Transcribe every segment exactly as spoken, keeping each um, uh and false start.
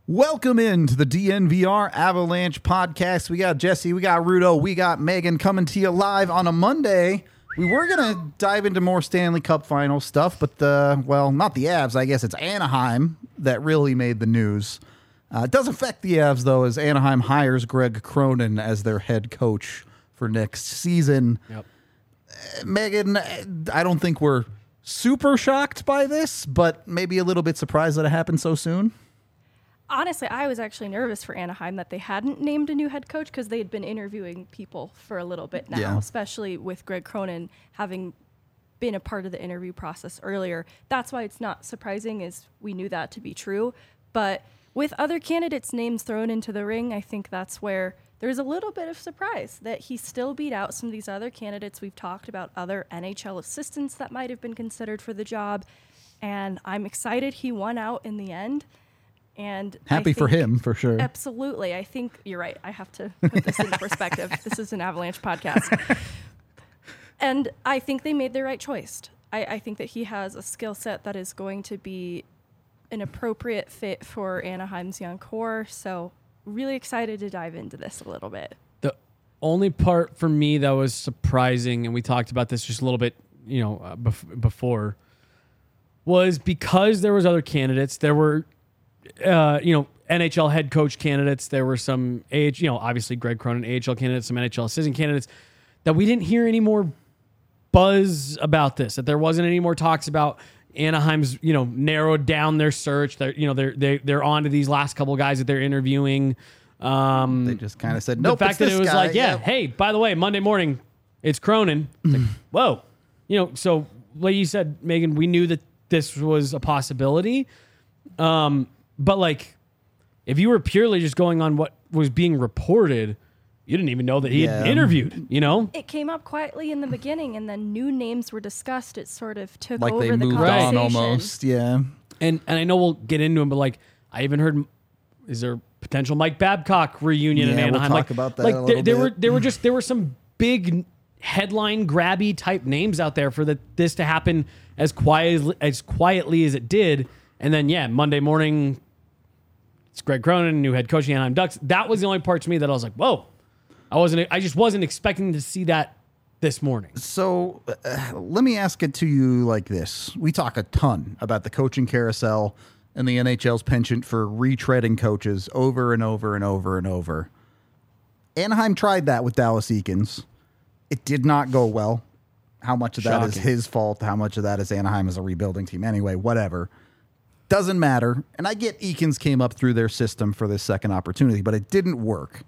Welcome into the D N V R Avalanche podcast. We got Jesse, we got Rudo, we got Megan coming to you live on a Monday. We were going to dive into more Stanley Cup final stuff, but the, well, not the Avs. I guess it's Anaheim that really made the news. Uh, it does affect the Avs, though, as Anaheim hires Greg Cronin as their head coach for next season. Yep. Uh, Megan, I don't think we're super shocked by this, but maybe a little bit surprised that it happened so soon. Honestly, I was actually nervous for Anaheim that they hadn't named a new head coach because they had been interviewing people for a little bit now, Yeah. especially with Greg Cronin having been a part of the interview process earlier. That's why it's not surprising, is we knew that to be true. But with other candidates' names thrown into the ring, I think that's where there's a little bit of surprise that he still beat out some of these other candidates. We've talked about other N H L assistants that might have been considered for the job, and I'm excited he won out in the end. And Happy for him, for sure. Absolutely. I think you're right. I have to put this into perspective. This is an Avalanche podcast. And I think they made the right choice. I, I think that he has a skill set that is going to be an appropriate fit for Anaheim's young core. So really excited to dive into this a little bit. The only part for me that was surprising, and we talked about this just a little bit, you know, uh, bef- before, was because there was other candidates. There were Uh, you know, N H L head coach candidates. There were some A H, you know, obviously Greg Cronin, A H L candidates, some N H L assistant candidates, that we didn't hear any more buzz about this. That there wasn't any more talks about Anaheim's, you know, narrowed down their search. They're, you know, they're they they're on to these last couple guys that they're interviewing. Um, They just kind of said, nope, the fact it's that this it was guy. like, yeah, Yep. hey, by the way, Monday morning, it's Cronin. It's like, whoa, you know. So, like you said, Megan, we knew that this was a possibility. Um. But, like, if you were purely just going on what was being reported, you didn't even know that he Yeah. had interviewed, you know? It came up quietly in the beginning, and then new names were discussed. It sort of took Like over they the moved conversation. on almost, yeah. And and I know we'll get into him, but, like, I even heard, is there potential Mike Babcock reunion in Yeah, we'll Anaheim? talk like, about that like a there, little there were bit. there were just there were some big headline grabby type names out there for the, this to happen as quiet as quietly as it did. And then, yeah, Monday morning, it's Greg Cronin, new head coach of the Anaheim Ducks. That was the only part to me that I was like, whoa. I wasn't. I just wasn't expecting to see that this morning. So uh, let me ask it to you like this. We talk a ton about the coaching carousel and the N H L's penchant for retreading coaches over and over and over and over. Anaheim tried that with Dallas Eakins. It did not go well. How much of that is Shocking. his fault? How much of that is Anaheim as a rebuilding team? Anyway, whatever. Doesn't matter. And I get Eakins came up through their system for this second opportunity, but it didn't work.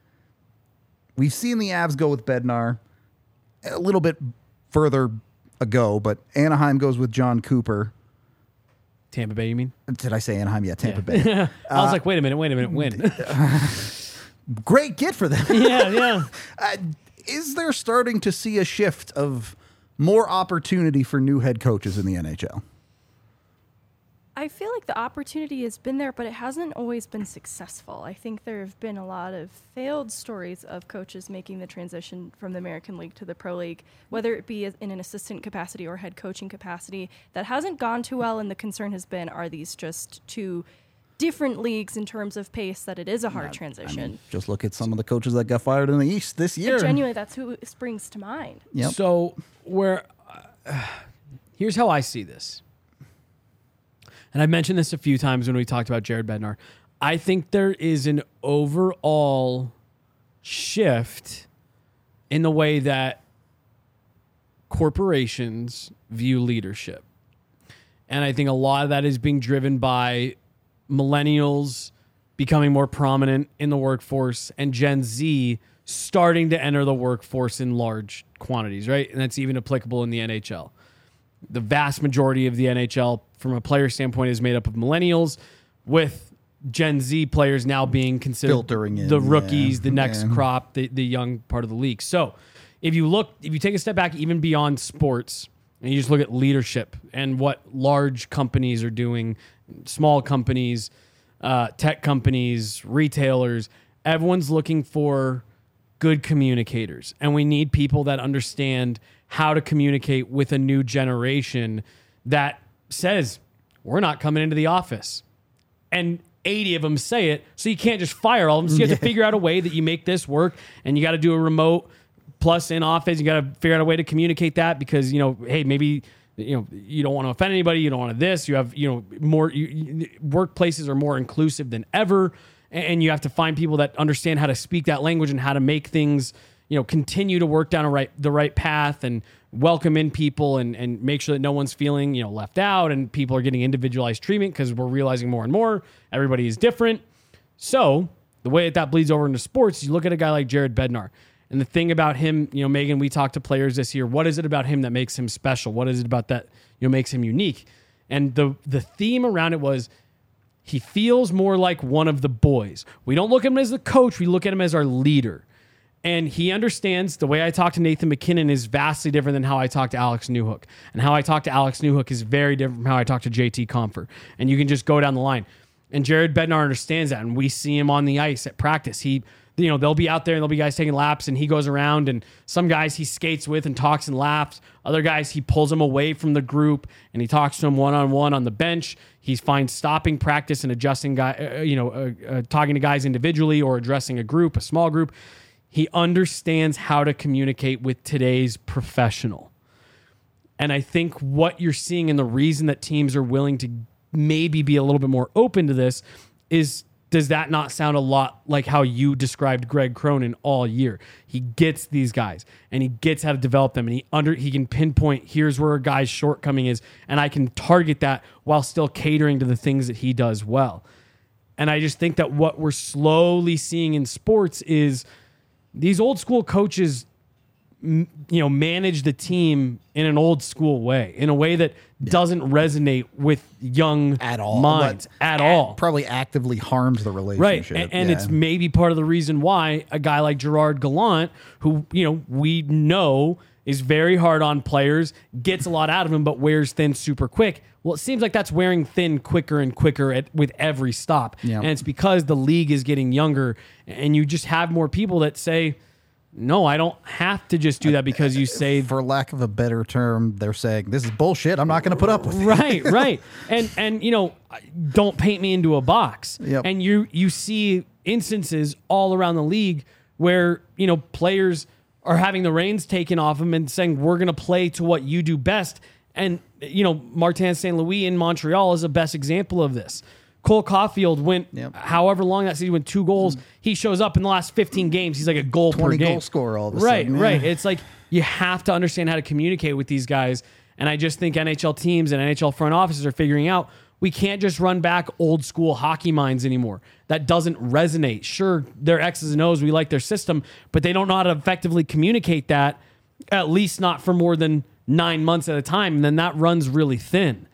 We've seen the Avs go with Bednar a little bit further ago, but Anaheim goes with John Cooper. Tampa Bay, you mean? Did I say Anaheim? Yeah, Tampa Bay. I was like, wait a minute, wait a minute, when? Great get for them. yeah, yeah. Uh, is there starting to see a shift of more opportunity for new head coaches in the N H L? I feel like the opportunity has been there, but it hasn't always been successful. I think there have been a lot of failed stories of coaches making the transition from the American League to the Pro League, whether it be in an assistant capacity or head coaching capacity. That hasn't gone too well, and the concern has been, are these just two different leagues in terms of pace that it is a hard transition? I mean, just look at some of the coaches that got fired in the East this year. And genuinely, that's who springs to mind. Yep. So, where uh, here's how I see this. And I mentioned this a few times when we talked about Jared Bednar. I think there is an overall shift in the way that corporations view leadership. And I think a lot of that is being driven by millennials becoming more prominent in the workforce and Gen Z starting to enter the workforce in large quantities, right? And that's even applicable in the N H L. The vast majority of the N H L, from a player standpoint, is made up of millennials, with Gen Z players now being considered Filtering in, the rookies, yeah. the next Yeah. crop, the, the young part of the league. So if you look, if you take a step back even beyond sports, and you just look at leadership and what large companies are doing, small companies, uh, tech companies, retailers, everyone's looking for good communicators. And we need people that understand how to communicate with a new generation that says, we're not coming into the office. And eighty of them say it, so you can't just fire all of them. So you have to figure out a way that you make this work, and you got to do a remote plus in office. You got to figure out a way to communicate that because, you know, hey, maybe, you know, you don't want to offend anybody. You don't want to this. You have, you know, more you, you, workplaces are more inclusive than ever, and you have to find people that understand how to speak that language and how to make things, you know, continue to work down a right the right path and welcome in people and and make sure that no one's feeling, you know, left out and people are getting individualized treatment because we're realizing more and more everybody is different. So the way that that bleeds over into sports, you look at a guy like Jared Bednar. And the thing about him, you know, Megan, we talked to players this year. What is it about him that makes him special? What is it about that, you know, makes him unique? And the the theme around it was he feels more like one of the boys. We don't look at him as the coach. We look at him as our leader. And he understands the way I talk to Nathan McKinnon is vastly different than how I talk to Alex Newhook. And how I talk to Alex Newhook is very different from how I talk to J T Comfer. And you can just go down the line. And Jared Bednar understands that. And we see him on the ice at practice. He, you know, they'll be out there and there'll be guys taking laps and he goes around and some guys he skates with and talks and laughs. Other guys, he pulls them away from the group and he talks to them one-on-one on the bench. He finds stopping practice and adjusting guy, uh, you know, uh, uh, talking to guys individually or addressing a group, a small group. He understands how to communicate with today's professional. And I think what you're seeing and the reason that teams are willing to maybe be a little bit more open to this is, does that not sound a lot like how you described Greg Cronin all year? He gets these guys and he gets how to develop them and he under he can pinpoint here's where a guy's shortcoming is and I can target that while still catering to the things that he does well. And I just think that what we're slowly seeing in sports is these old school coaches, you know, manage the team in an old school way, in a way that yeah. doesn't resonate with young at all minds but at at, all. Probably actively harms the relationship. Right. And, and yeah. it's maybe part of the reason why a guy like Gerard Gallant, who, you know, we know is very hard on players, gets a lot out of them, but wears thin super quick. Well, it seems like that's wearing thin quicker and quicker at, with every stop. Yeah. And it's because the league is getting younger and you just have more people that say, no, I don't have to just do that because you say, for lack of a better term, they're saying this is bullshit. I'm not going to put up with it. Right, right. And, and, you know, don't paint me into a box. Yep. And you, you see instances all around the league where, you know, players are having the reins taken off them and saying, we're going to play to what you do best. And, you know, Martin Saint Louis in Montreal is the best example of this. Cole Caulfield went, yep. however long that season, went two goals. Mm-hmm. He shows up in the last fifteen games. He's like a goal per game. goal scorer all of a right, sudden. Right, right. Yeah. It's like you have to understand how to communicate with these guys. And I just think N H L teams and N H L front offices are figuring out we can't just run back old school hockey minds anymore. That doesn't resonate. Sure, they're X's and O's. We like their system, but they don't know how to effectively communicate that, at least not for more than nine months at a time. And then that runs really thin.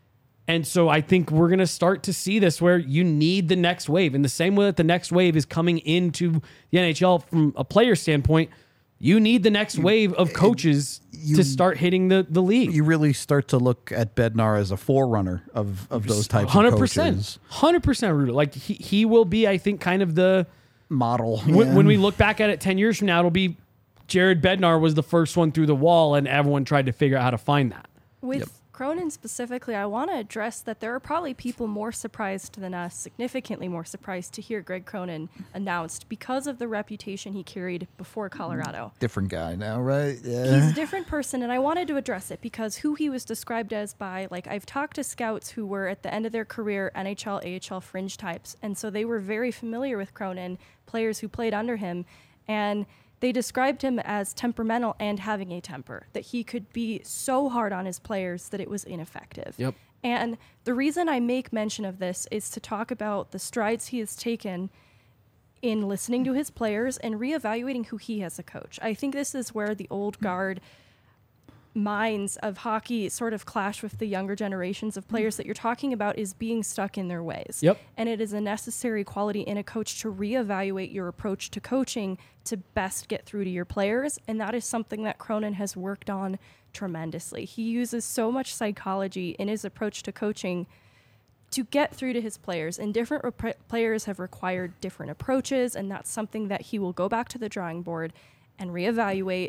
And so I think we're going to start to see this where you need the next wave. In the same way that the next wave is coming into the N H L from a player standpoint, you need the next wave of coaches you, to start hitting the, the league. You really start to look at Bednar as a forerunner of, of those types one hundred percent, of coaches. one hundred percent, Rudo. Like he, he will be, I think, kind of the model. When, yeah. when we look back at it ten years from now, it'll be Jared Bednar was the first one through the wall and everyone tried to figure out how to find that. With Yep. Cronin specifically, I want to address that there are probably people more surprised than us, significantly more surprised to hear Greg Cronin announced because of the reputation he carried before Colorado. Different guy now, right? Yeah. He's a different person, and I wanted to address it because who he was described as by, like, I've talked to scouts who were at the end of their career N H L, A H L fringe types, and so they were very familiar with Cronin, players who played under him, and they described him as temperamental and having a temper, that he could be so hard on his players that it was ineffective. Yep. And the reason I make mention of this is to talk about the strides he has taken in listening to his players and reevaluating who he has a coach. I think this is where the old guard minds of hockey sort of clash with the younger generations of players that you're talking about is being stuck in their ways. Yep. And it is a necessary quality in a coach to reevaluate your approach to coaching to best get through to your players. And that is something that Cronin has worked on tremendously. He uses so much psychology in his approach to coaching to get through to his players. And different rep- players have required different approaches. And that's something that he will go back to the drawing board and reevaluate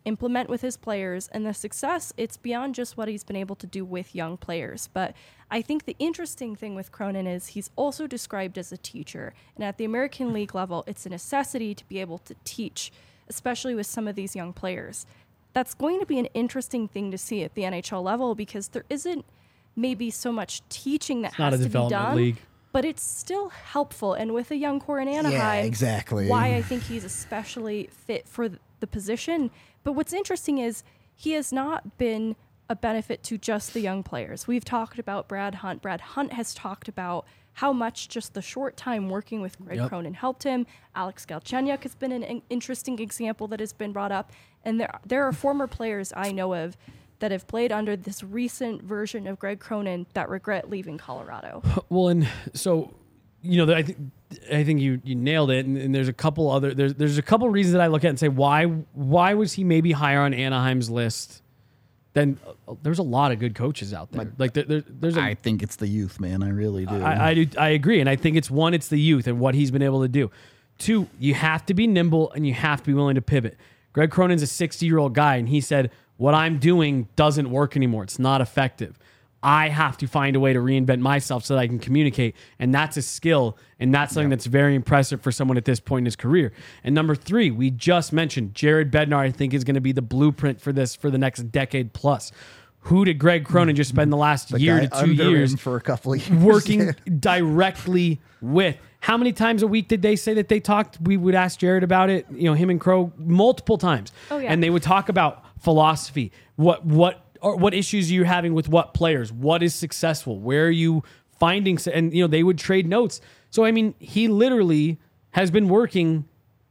implement with his players, and the success, it's beyond just what he's been able to do with young players. But I think the interesting thing with Cronin is he's also described as a teacher. And at the American League level, it's a necessity to be able to teach, especially with some of these young players. That's going to be an interesting thing to see at the N H L level because there isn't maybe so much teaching that It's has not a to be development done. league. But it's still helpful. And with a young core in Anaheim, Yeah, exactly. why I think he's especially fit for th- the position. But what's interesting is he has not been a benefit to just the young players. We've talked about Brad Hunt. Brad Hunt has talked about how much just the short time working with Greg Yep. Cronin helped him. Alex Galchenyuk has been an in- interesting example that has been brought up. And there, there are former players I know of that have played under this recent version of Greg Cronin that regret leaving Colorado. Well, and so, you know, I think I think you you nailed it. And, and there's a couple other there's there's a couple reasons that I look at and say why why was he maybe higher on Anaheim's list? Then uh, there's a lot of good coaches out there. Like there, there, there's a I think it's the youth, man. I really do. I, I do. I agree, and I think it's one, it's the youth and what he's been able to do. Two, you have to be nimble and you have to be willing to pivot. Greg Cronin's a sixty-year-old guy, and he said, "What I'm doing doesn't work anymore. It's not effective. I have to find a way to reinvent myself so that I can communicate." And that's a skill, and that's something that's very impressive for someone at this point in his career. And number three, we just mentioned Jared Bednar, I think, is going to be the blueprint for this for the next decade plus. Who did Greg Cronin just spend the last The year guy to two under years him for a couple of years. working directly with? How many times a week did they say that they talked? We would ask Jared about it, you know, him and Crow multiple times. Oh, yeah. And they would talk about philosophy. What what or what issues are you having with what players? What is successful? Where are you finding? And, you know, they would trade notes. So, I mean, he literally has been working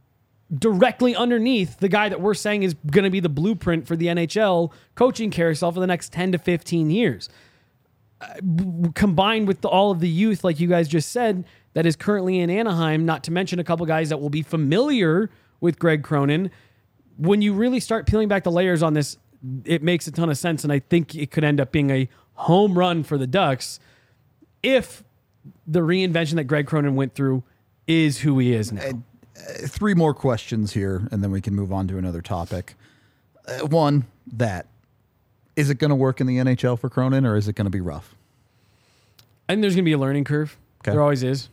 directly underneath the guy that we're saying is going to be the blueprint for the N H L coaching carousel for the next ten to fifteen years. Uh, b- combined with the, all of the youth, like you guys just said, that is currently in Anaheim, not to mention a couple guys that will be familiar with Greg Cronin. When you really start peeling back the layers on this, it makes a ton of sense, and I think it could end up being a home run for the Ducks if the reinvention that Greg Cronin went through is who he is now. Three more questions here, and then we can move on to another topic. Uh, one, that. Is it going to work in the N H L for Cronin, or is it going to be rough? And there's going to be a learning curve. Okay. There always is.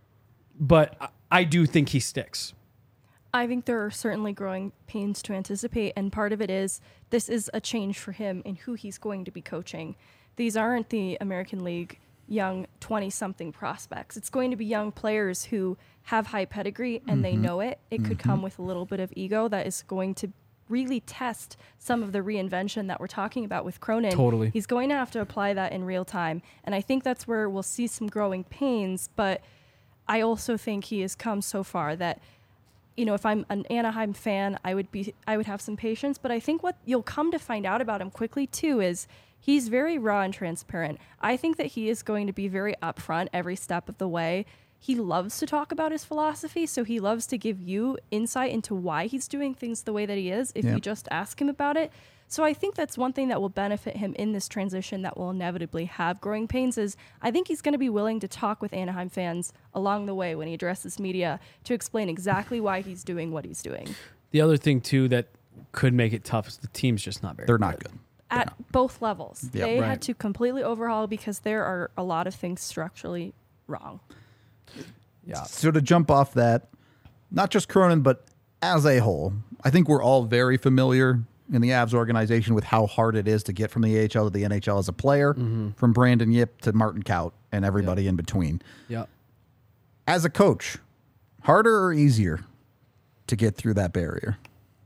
But I- I do think he sticks. I think there are certainly growing pains to anticipate, and part of it is this is a change for him in who he's going to be coaching. These aren't the American League young twenty-something prospects. It's going to be young players who have high pedigree, and mm-hmm. they know it. It mm-hmm. could come with a little bit of ego that is going to really test some of the reinvention that we're talking about with Cronin. Totally. He's going to have to apply that in real time, and I think that's where we'll see some growing pains, but I also think he has come so far that, you know, if I'm an Anaheim fan, I would be, I would have some patience. But I think what you'll come to find out about him quickly too is he's very raw and transparent. I think that he is going to be very upfront every step of the way. He loves to talk about his philosophy, so he loves to give you insight into why he's doing things the way that he is if yeah. you just ask him about it. So I think that's one thing that will benefit him in this transition that will inevitably have growing pains is I think he's going to be willing to talk with Anaheim fans along the way when he addresses media to explain exactly why he's doing what he's doing. The other thing, too, that could make it tough is the team's just not very They're good. not good. At Yeah. both levels. Yeah, they right. had to completely overhaul because there are a lot of things structurally wrong. Yeah. So to jump off that, not just Cronin, but as a whole, I think we're all very familiar in the Avs organization with how hard it is to get from the A H L to the N H L as a player, Mm-hmm. from Brandon Yip to Martin Kaut and everybody Yep. in between. Yeah. As a coach, harder or easier to get through that barrier?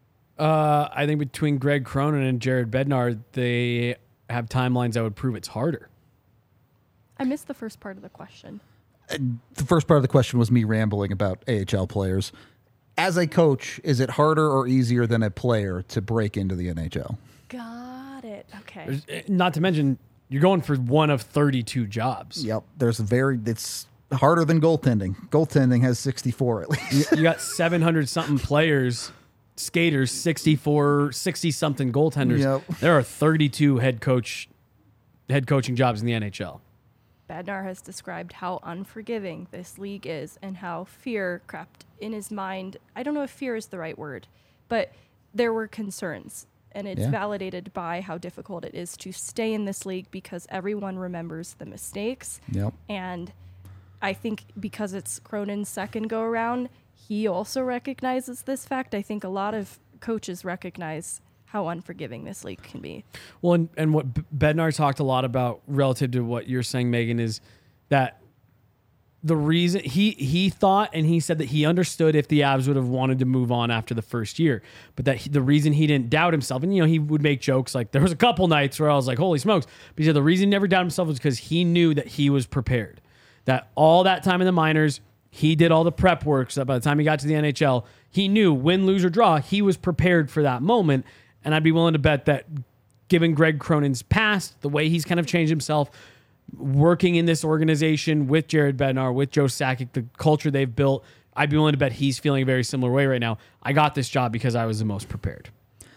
Uh, I think between Greg Cronin and Jared Bednar, they have timelines that would prove it's harder. I missed the first part of the question. The first part of the question was me rambling about A H L players. As a coach, is it harder or easier than a player to break into the N H L? Got it. Okay. There's- eh, Not to mention, you're going for one of thirty-two jobs. Yep. There's a very, it's harder than goaltending. Goaltending has sixty-four at least. You, you got seven hundred something players, skaters, sixty-four, sixty something goaltenders. Yep. There are thirty-two head coach, head coaching jobs in the N H L. Bednar has described how unforgiving this league is and how fear crept in his mind. I don't know if fear is the right word, but there were concerns. And it's Yeah. validated by how difficult it is to stay in this league because everyone remembers the mistakes. Yep. And I think because it's Cronin's second go around, he also recognizes this fact. I think a lot of coaches recognize how unforgiving this league can be. Well, and, and what B- Bednar talked a lot about relative to what you're saying, Megan, is that the reason he he thought and he said that he understood if the Avs would have wanted to move on after the first year, but that he, the reason he didn't doubt himself, and you know, he would make jokes like there was a couple nights where I was like, holy smokes. But he said the reason he never doubted himself was because he knew that he was prepared. That all that time in the minors, he did all the prep work so that by the time he got to the N H L, he knew win, lose, or draw, he was prepared for that moment. And I'd be willing to bet that given Greg Cronin's past, the way he's kind of changed himself, working in this organization with Jared Bednar, with Joe Sakic, the culture they've built, I'd be willing to bet he's feeling a very similar way right now. I got this job because I was the most prepared.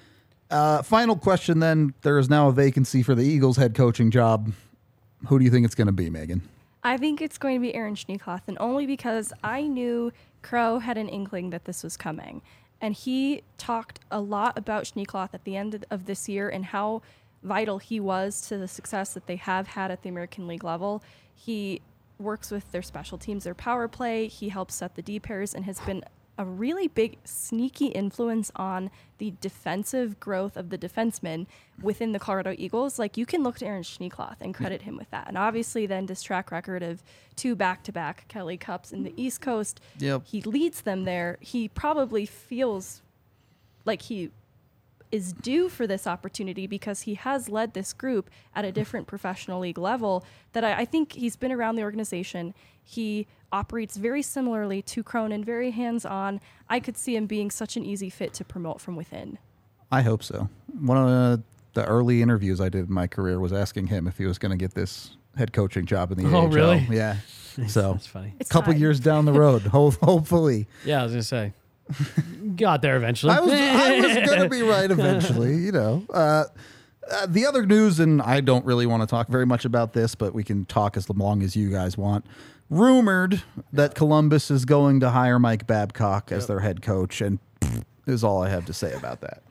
Uh, final question then. There is now a vacancy for the Eagles head coaching job. Who do you think it's going to be, Megan? I think it's going to be Aaron Schneekloth, and only because I knew Crow had an inkling that this was coming. And he talked a lot about Schneekloth at the end of this year and how vital he was to the success that they have had at the American League level. He works with their special teams, their power play. He helps set the D pairs and has been a really big sneaky influence on the defensive growth of the defensemen within the Colorado Eagles. Like, you can look to Aaron Schneekloth and credit him with that. And obviously then this track record of two back-to-back Kelly Cups in the East Coast, Yep. he leads them there. He probably feels like he is due for this opportunity because he has led this group at a different professional league level that I, I think he's been around the organization. He operates very similarly to Cronin, very hands-on. I could see him being such an easy fit to promote from within. I hope so. One of the, the early interviews I did in my career was asking him if he was going to get this head coaching job in the Oh, A H L. really? Yeah. So That's funny. It's a couple time. years down the road, ho- hopefully. Yeah, I was going to say. Got there eventually. I was I was going to be right eventually, you know. Uh, uh, the other news, and I don't really want to talk very much about this, but we can talk as long as you guys want. Rumored that Columbus is going to hire Mike Babcock as Yep. their head coach, and pfft, is all I have to say about that.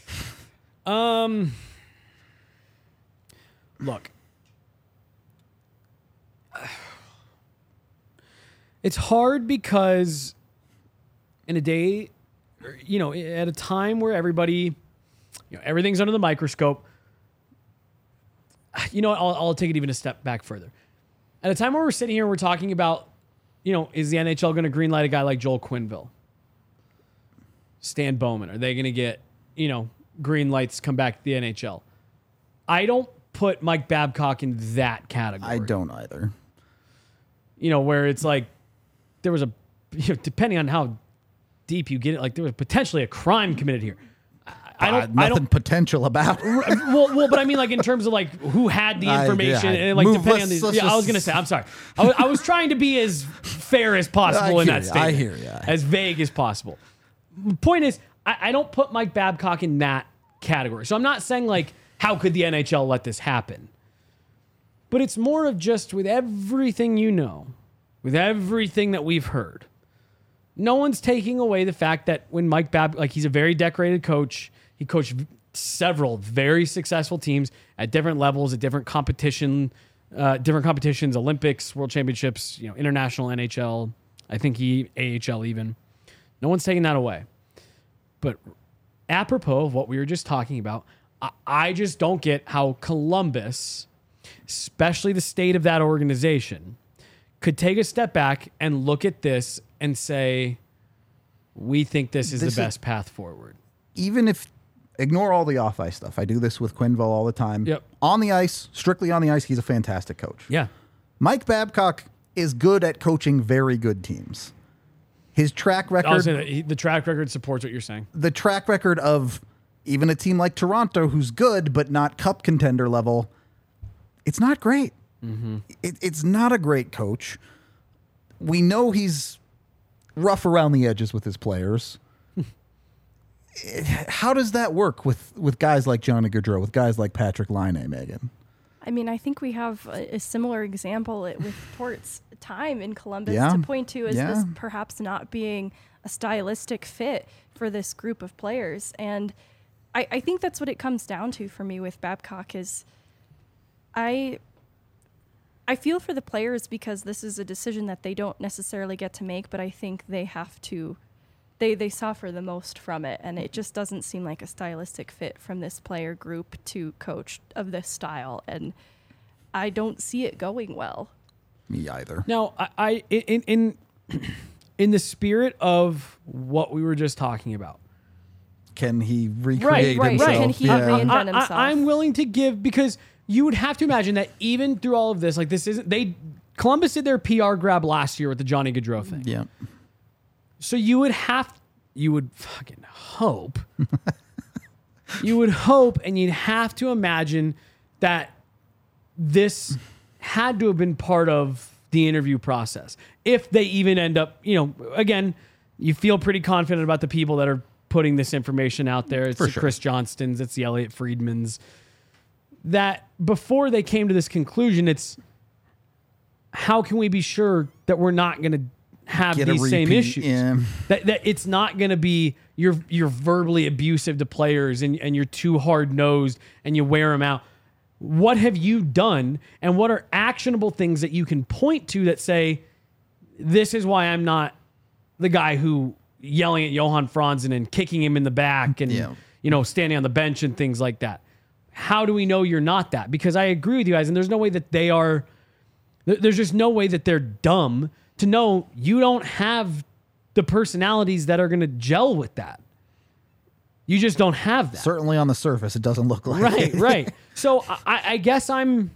Um, look, it's hard because in a day, or, you know, at a time where everybody, you know, everything's under the microscope. You know, I'll, I'll take it even a step back further. At a time where we're sitting here, we're talking about, you know, is the N H L going to greenlight a guy like Joel Quenneville, Stan Bowman? Are they going to get, you know, green lights come back to the N H L? I don't put Mike Babcock in that category. I don't either. You know, where it's like there was a, you know, depending on how deep you get it, like there was potentially a crime committed here. I don't. Uh, nothing I don't. potential about it. Well, well, but I mean, like in terms of like who had the I- information, yeah. and like Move- depending on let's- the. let's Yeah, I was just- gonna say. I'm sorry. I was, I was trying to be as fair as possible I in hear that ya, statement. I hear ya. As vague as possible. Point is, I, I don't put Mike Babcock in that category. So I'm not saying like how could the N H L let this happen, but it's more of just with everything you know, with everything that we've heard. No one's taking away the fact that when Mike Bab, like he's a very decorated coach. He coached several very successful teams at different levels, at different competition, uh, different competitions, Olympics, World Championships, you know, international, N H L. I think he A H L even. No one's taking that away. But apropos of what we were just talking about, I, I just don't get how Columbus, especially the state of that organization, could take a step back and look at this and say, we think this is This the is- best path forward. Even if ignore all the off ice stuff. I do this with Quenneville all the time. Yep. On the ice, strictly on the ice, he's a fantastic coach. Yeah. Mike Babcock is good at coaching very good teams. His track I was record, saying that he- the track record supports what you're saying. the track record of even a team like Toronto, who's good but not cup contender level, it's not great. It, it's not a great coach. We know he's rough around the edges with his players. How does that work with, with guys like Johnny Gaudreau, with guys like Patrick Laine, Megan? I mean, I think we have a, a similar example with Tort's time in Columbus Yeah. to point to as Yeah. this perhaps not being a stylistic fit for this group of players. And I, I think that's what it comes down to for me with Babcock is I I feel for the players because this is a decision that they don't necessarily get to make, but I think they have to they they suffer the most from it, and it just doesn't seem like a stylistic fit from this player group to coach of this style, and I don't see it going well. Me either. Now, I, I in in in the spirit of what we were just talking about, Can he recreate right, himself? Can he Yeah. reinvent I, himself? I, I'm willing to give because you would have to imagine that even through all of this, like this isn't they Columbus did their P R grab last year with the Johnny Gaudreau thing. Yeah. So you would have, you would fucking hope, you would hope, and you'd have to imagine that this had to have been part of the interview process. If they even end up, you know, again, you feel pretty confident about the people that are putting this information out there. It's For the sure. Chris Johnstons, it's the Elliot Friedmans. That before they came to this conclusion, it's how can we be sure that we're not going to have Get a these same repeat, issues? yeah. That, that it's not going to be you're you're verbally abusive to players and, and you're too hard nosed and you wear them out. What have you done, and what are actionable things that you can point to that say, this is why I'm not the guy who yelling at Johan Franzen and kicking him in the back and Yeah. you know standing on the bench and things like that. How do we know you're not that? Because I agree with you guys, and there's no way that they are. there- There's just no way that they're dumb to know you don't have the personalities that are going to gel with that. You just don't have that. Certainly on the surface, it doesn't look like Right, it. right. So I, I guess I'm.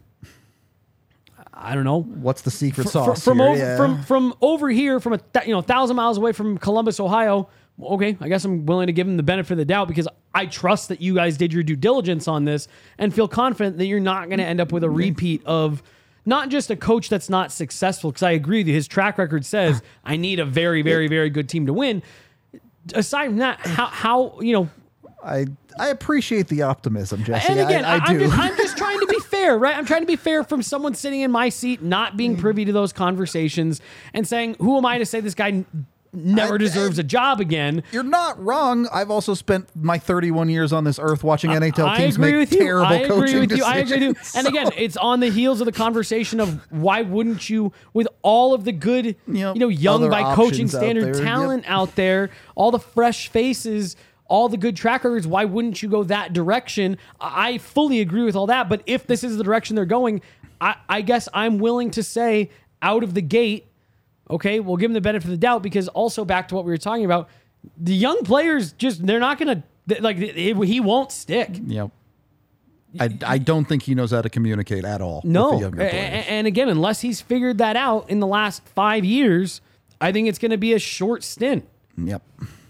I don't know. What's the secret Fr- sauce from here? over Yeah. from from over here, from a th- you know thousand miles away from Columbus, Ohio. Okay, I guess I'm willing to give them the benefit of the doubt because I trust that you guys did your due diligence on this and feel confident that you're not going to end up with a repeat of not just a coach that's not successful. Because I agree with you, his track record says I need a very, very, very good team to win. Aside from that, how how you know. I I appreciate the optimism, Jesse. And again, I, I I'm, do. just, I'm just trying to be fair, right? I'm trying to be fair from someone sitting in my seat, not being privy to those conversations, and saying, "Who am I to say this guy n- never I- deserves a job again?" You're not wrong. I've also spent my thirty-one years on this earth watching N H L I teams agree make with you. terrible I agree coaching with you. I decisions. agree with you. And again, it's on the heels of the conversation of why wouldn't you, with all of the good, Yep. you know, young Other by coaching options out standard there. talent out there, all the fresh faces, all the good track records, why wouldn't you go that direction? I I fully agree with all that. But if this is the direction they're going, I, I guess I'm willing to say out of the gate, okay, we'll give them the benefit of the doubt because also back to what we were talking about, the young players just, they're not going to, like, it, he won't stick. Yep. I, I don't think he knows how to communicate at all. No. with the younger A- players. a- and again, unless he's figured that out in the last five years, I think it's going to be a short stint. Yep.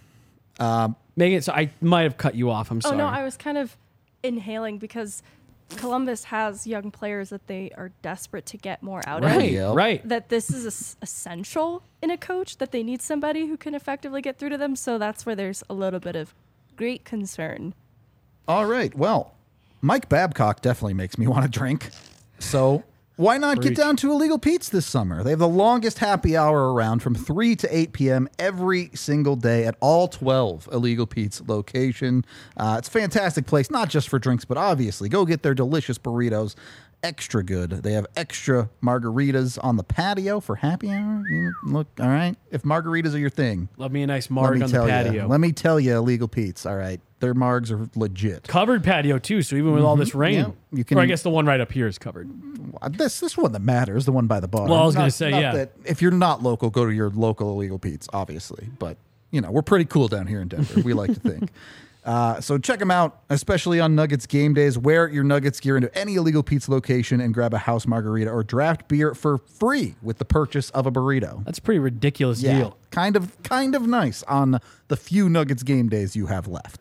Megan, so I might have cut you off. I'm Oh sorry. no, I was kind of inhaling because Columbus has young players that they are desperate to get more out right, of. Yep. right. That this is es- essential in a coach, that they need somebody who can effectively get through to them. So that's where there's a little bit of great concern. All right. Well, Mike Babcock definitely makes me want to drink. So why not Preach. get down to Illegal Pete's this summer? They have the longest happy hour around from three to eight p.m. every single day at all twelve Illegal Pete's location. Uh, it's a fantastic place, not just for drinks, but obviously go get their delicious burritos. Extra good. They have extra margaritas on the patio for happy hour. You look, all right. If margaritas are your thing, Love me a nice let marg me on the tell patio. you. Let me tell you, Illegal Pete's. All right, their margs are legit. Covered patio too, so even with all this rain, Yeah, you can- or I guess the one right up here is covered. This this one that matters, the one by the bar. Well, I was Not- gonna say, not yeah. that if you're not local, go to your local Illegal Pete's, obviously. But you know, we're pretty cool down here in Denver. We like to think. Uh, so check them out, especially on Nuggets game days. Wear your Nuggets gear into any Illegal Pete's location and grab a house margarita or draft beer for free with the purchase of a burrito. That's a pretty ridiculous Yeah, deal. kind of kind of nice on the few Nuggets game days you have left.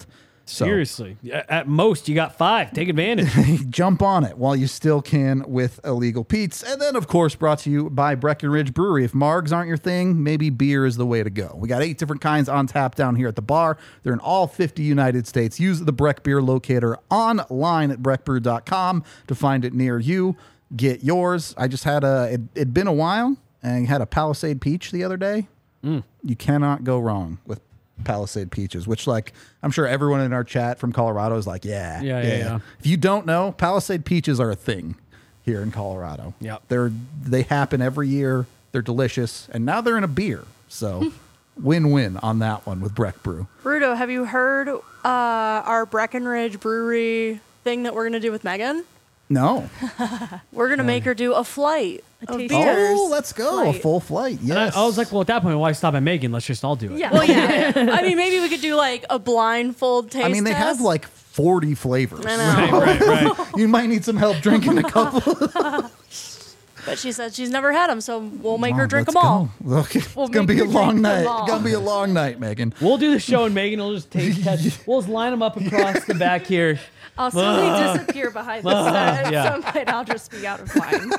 So Seriously. At most, you got five. Take advantage. jump on it while you still can with Illegal Pete's. And then, of course, brought to you by Breckenridge Brewery. If margs aren't your thing, maybe beer is the way to go. We got eight different kinds on tap down here at the bar. They're in all fifty United States. Use the Breck Beer Locator online at breck brew dot com to find it near you. Get yours. I just had a, it, it'd been a while, and I had a Palisade Peach the other day. Mm. You cannot go wrong with Palisade Peaches, which, like, I'm sure everyone in our chat from Colorado is like, yeah, Yeah, yeah, yeah. If you don't know, Palisade Peaches are a thing here in Colorado. Yep. They're they happen every year. They're delicious, and now they're in a beer. So, win-win on that one with Breck Brew. Rudo, have you heard uh, our Breckenridge Brewery thing that we're gonna do with Megan? No. We're gonna make her do a flight of taste beers. Oh, let's go. A Flight. full flight. And I, Yes. I was like, well, at that point, why stop at Megan? Let's just all do it. Yeah. Well, yeah. I mean, maybe we could do like a blindfold taste I mean, they test. have like forty flavors. I know. Right, right, right. You might need some help drinking a couple. But she said she's never had them, so we'll make her Oh, drink let's them all. go. Okay. We'll it's gonna make be a her long drink night. them all. It's gonna be a long night, Megan. We'll do the show, and Megan will just taste test. We'll just line them up across the back here. I'll slowly disappear behind the set. At yeah. some point, I'll just be out of line.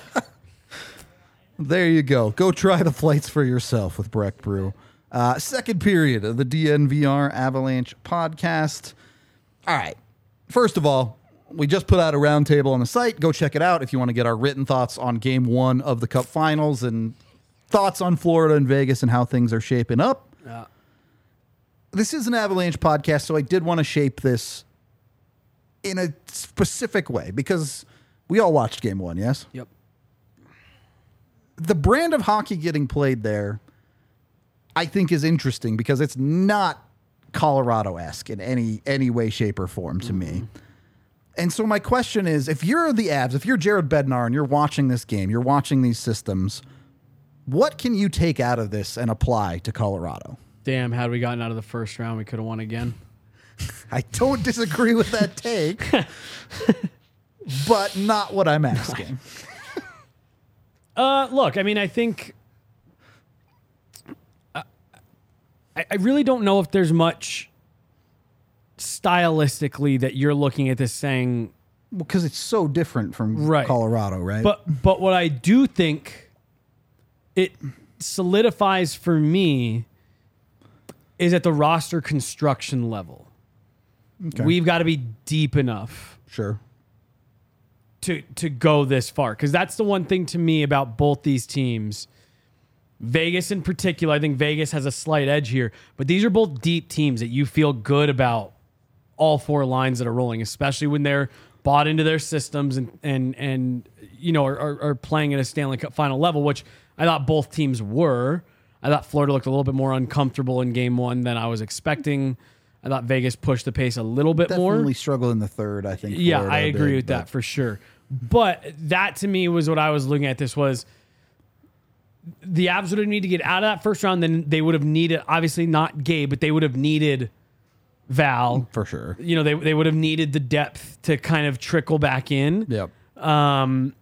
There you go. Go try the flights for yourself with Breck Brew. Uh, second period of the D N V R Avalanche podcast. All right. First of all, we just put out a roundtable on the site. Go check it out if you want to get our written thoughts on game one of the Cup Finals and thoughts on Florida and Vegas and how things are shaping up. Yeah. This is an Avalanche podcast, so I did want to shape this in a specific way because we all watched game one, yes? Yep. The brand of hockey getting played there, I think, is interesting because it's not Colorado-esque in any any way, shape, or form to me. And so my question is, if you're the Avs, if you're Jared Bednar and you're watching this game, you're watching these systems, what can you take out of this and apply to Colorado? Damn, had we gotten out of the first round, we could have won again. I don't disagree with that take, but not what I'm asking. Uh, look, I mean, I think uh, I, I really don't know if there's much stylistically that you're looking at this saying, Because it's so different from Right. Colorado, right? but but what I do think it solidifies for me is at the roster construction level. Okay. We've got to be deep enough Sure. to to go this far, because that's the one thing to me about both these teams. Vegas in particular, I think Vegas has a slight edge here, but these are both deep teams that you feel good about all four lines that are rolling, especially when they're bought into their systems and and and you know are, are, are playing at a Stanley Cup final level, which I thought both teams were. I thought Florida looked a little bit more uncomfortable in game one than I was expecting. I thought Vegas pushed the pace a little bit more. Definitely struggle in the third, I think. Yeah, Florida I agree did, with but- that for sure. But that to me was what I was looking at. This was the Avs would have needed to get out of that first round. Then they would have needed, obviously not Gabe, but they would have needed Val. For sure. You know, they they would have needed the depth to kind of trickle back in. Yep. Um,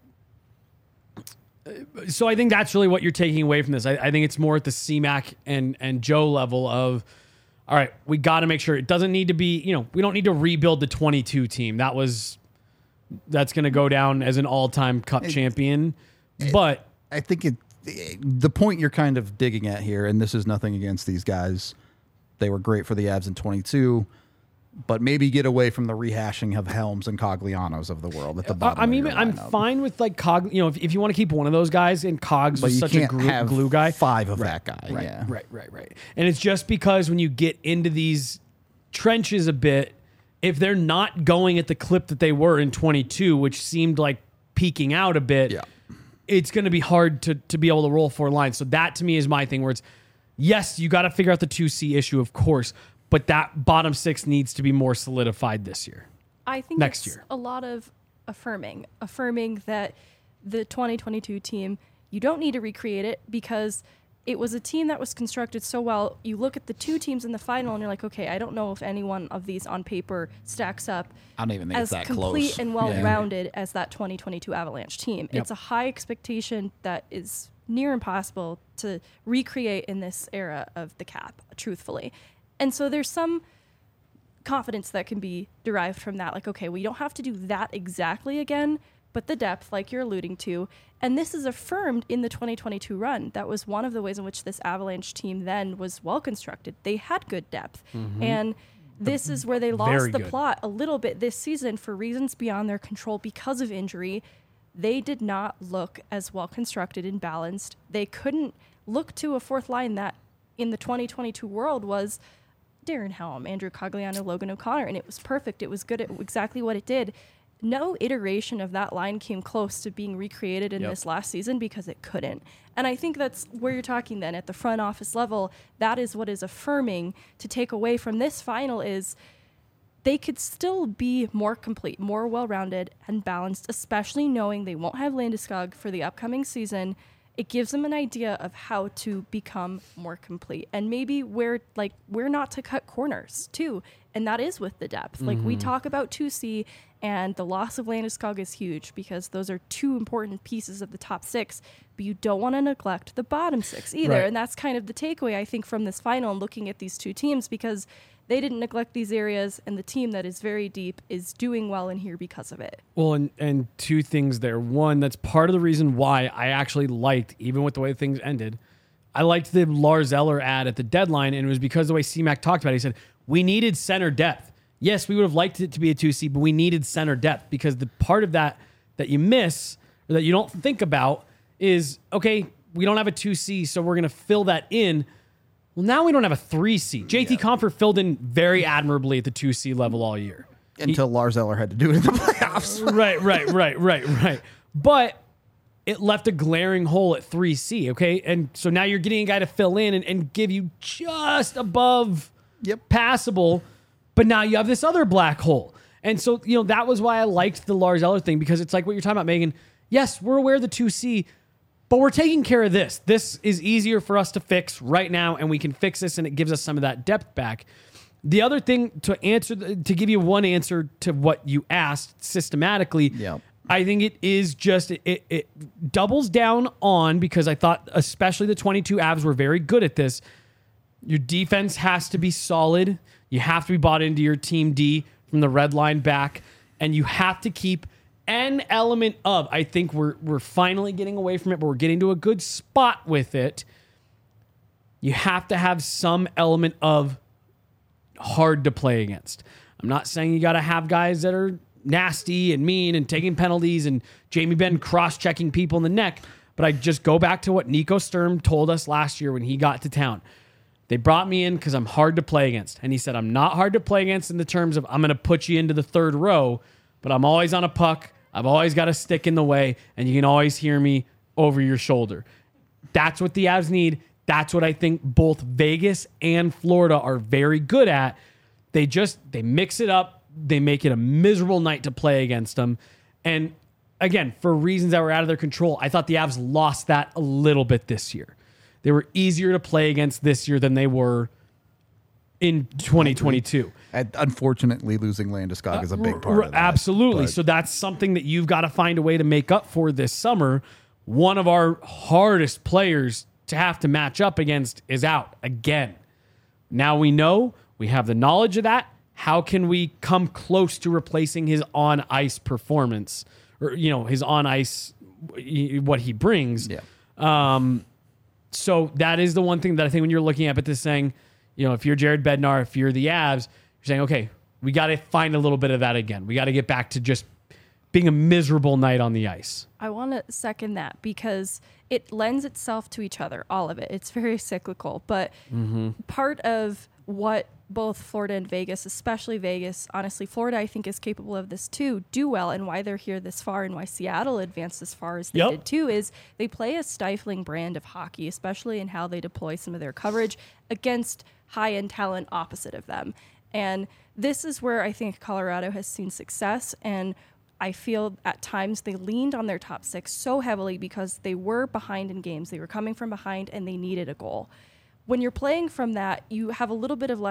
so I think that's really what you're taking away from this. I, I think it's more at the C Mac and and Joe level of, all right, we got to make sure it doesn't need to be, you know, we don't need to rebuild the twenty-two team. That was, that's going to go down as an all-time Cup champion. But I think it, the point you're kind of digging at here, and this is nothing against these guys. They were great for the Avs in twenty-two, but maybe get away from the rehashing of Helms and Coglianos of the world at the bottom. I'm of even, your I'm lineup. fine with like Cog, you know, if, if you want to keep one of those guys, and Cogs But was you such can't a glue, have glue guy. five of that guy. Right, yeah. right, right, right. And it's just because when you get into these trenches a bit, if they're not going at the clip that they were in twenty-two, which seemed like peaking out a bit, Yeah. it's going to be hard to to be able to roll four lines. So that to me is my thing, where it's, yes, you got to figure out the two C issue, of course, but that bottom six needs to be more solidified this year. I think Next it's year. a lot of affirming, affirming that the twenty twenty-two team, you don't need to recreate it because it was a team that was constructed so well. You look at the two teams in the final and you're like, okay, I don't know if any one of these on paper stacks up I don't even think as it's that complete close. and well-rounded as that twenty twenty-two Avalanche team. Yep. It's a high expectation that is near impossible to recreate in this era of the cap, truthfully. And so there's some confidence that can be derived from that. Like, okay, we don't have to do that exactly again, but the depth, like you're alluding to, and this is affirmed in the twenty twenty-two run. That was one of the ways in which this Avalanche team then was well constructed. They had good depth. Mm-hmm. And this is where they Very lost the good. plot a little bit this season for reasons beyond their control because of injury. They did not look as well constructed and balanced. They couldn't look to a fourth line that in the twenty twenty-two world was Darren Helm, Andrew Cogliano, Logan O'Connor, and it was perfect. It was good at exactly what it did. No iteration of that line came close to being recreated in Yep. this last season because it couldn't. And I think that's where you're talking then at the front office level. That is what is affirming to take away from this final is they could still be more complete, more well-rounded and balanced, especially knowing they won't have Landeskog for the upcoming season. It gives them an idea of how to become more complete and maybe where like where not to cut corners too. And that is with the depth. Like we talk about two C and the loss of Landeskog is huge because those are two important pieces of the top six, but you don't want to neglect the bottom six either. Right. And that's kind of the takeaway I think from this final and looking at these two teams because they didn't neglect these areas and the team that is very deep is doing well in here because of it. Well, and, and two things there. One, that's part of the reason why I actually liked, even with the way things ended, I liked the Lars Eller ad at the deadline, and it was because the way C-Mac talked about it. He said, we needed center depth. Yes, we would have liked it to be a two C, but we needed center depth because the part of that that you miss or that you don't think about is, okay, we don't have a two C, so we're going to fill that in. Well, now we don't have a three C. J T Comfort filled in very admirably at the two C level all year. Until Lars Eller had to do it in the playoffs. right, right, right, right, right. But it left a glaring hole at three C, okay? And so now you're getting a guy to fill in and, and give you just above Yep. passable, but now you have this other black hole. And so, you know, that was why I liked the Lars Eller thing because it's like what you're talking about, Megan. Yes, we're aware of the two C, but we're taking care of this. This is easier for us to fix right now, and we can fix this, and it gives us some of that depth back. The other thing to answer, to give you one answer to what you asked systematically, Yep. I think it is just, it, it, it doubles down on, because I thought especially the twenty-two Avs were very good at this. Your defense has to be solid. You have to be bought into your team D from the red line back, and you have to keep an element of, I think we're we're finally getting away from it, but we're getting to a good spot with it. You have to have some element of hard to play against. I'm not saying you got to have guys that are nasty and mean and taking penalties and Jamie Benn cross-checking people in the neck, but I just go back to what Nico Sturm told us last year when he got to town. They brought me in because I'm hard to play against. And he said, I'm not hard to play against in the terms of I'm going to put you into the third row, but I'm always on a puck. I've always got a stick in the way, and you can always hear me over your shoulder. That's what the Avs need. That's what I think both Vegas and Florida are very good at. They just, they mix it up. They make it a miserable night to play against them. And again, for reasons that were out of their control, I thought the Avs lost that a little bit this year. They were easier to play against this year than they were in twenty twenty-two. And unfortunately, losing Landeskog is a big part R- of that. Absolutely. But So that's something that you've got to find a way to make up for this summer. One of our hardest players to have to match up against is out again. Now we know, we have the knowledge of that. How can we come close to replacing his on-ice performance, or, you know, his on-ice, what he brings? Yeah. Um, so that is the one thing that I think when you're looking at this saying, you know, if you're Jared Bednar, if you're the Avs, you're saying, okay, we got to find a little bit of that again. We got to get back to just being a miserable night on the ice. I want to second that because it lends itself to each other, all of it. It's very cyclical, but part of what both Florida and Vegas, especially Vegas, honestly, Florida, I think, is capable of this too, do well, and why they're here this far and why Seattle advanced as far as they Yep. did too, is they play a stifling brand of hockey, especially in how they deploy some of their coverage against high-end talent opposite of them. And this is where I think Colorado has seen success, and I feel at times they leaned on their top six so heavily because they were behind in games. They were coming from behind and they needed a goal. When you're playing from that, you have a little bit of less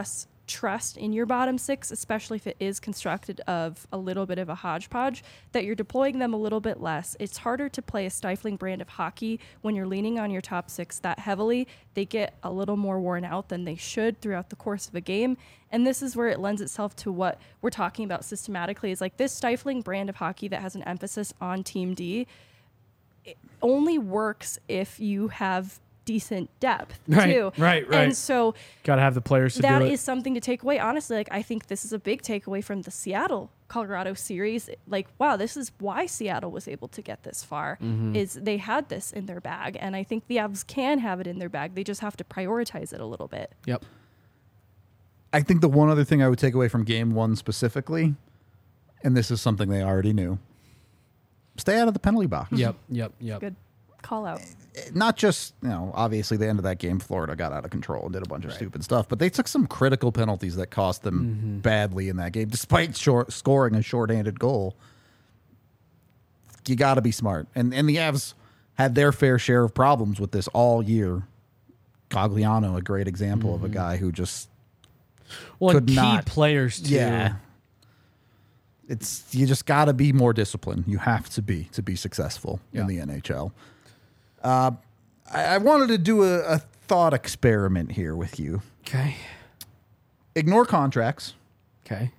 trust in your bottom six, especially if it is constructed of a little bit of a hodgepodge, that you're deploying them a little bit less. It's harder to play a stifling brand of hockey when you're leaning on your top six that heavily. They get a little more worn out than they should throughout the course of a game. And this is where it lends itself to what we're talking about systematically, is like this stifling brand of hockey that has an emphasis on Team D. It only works if you have decent depth Right, too. right, right. And so Got to have the players to that do it. is something to take away. Honestly, like I think this is a big takeaway from the Seattle Colorado series. Like, wow, this is why Seattle was able to get this far, Mm-hmm. is they had this in their bag. And I think the Avs can have it in their bag. They just have to prioritize it a little bit. Yep. I think the one other thing I would take away from game one specifically, and this is something they already knew, stay out of the penalty box. Yep. Yep. Yep. Good call out. Not just, you know, obviously the end of that game, Florida got out of control and did a bunch of stupid stuff, but they took some critical penalties that cost them Mm-hmm. badly in that game, despite short, scoring a shorthanded goal. You got to be smart. And, and the Avs had their fair share of problems with this all year. Cogliano, a great example Mm-hmm. of a guy who just, Well, and could key not- players too. yeah. It's you just got to be more disciplined. You have to be to be successful Yeah. in the N H L. Uh, I, I wanted to do a, a thought experiment here with you. Okay. Ignore contracts. Okay.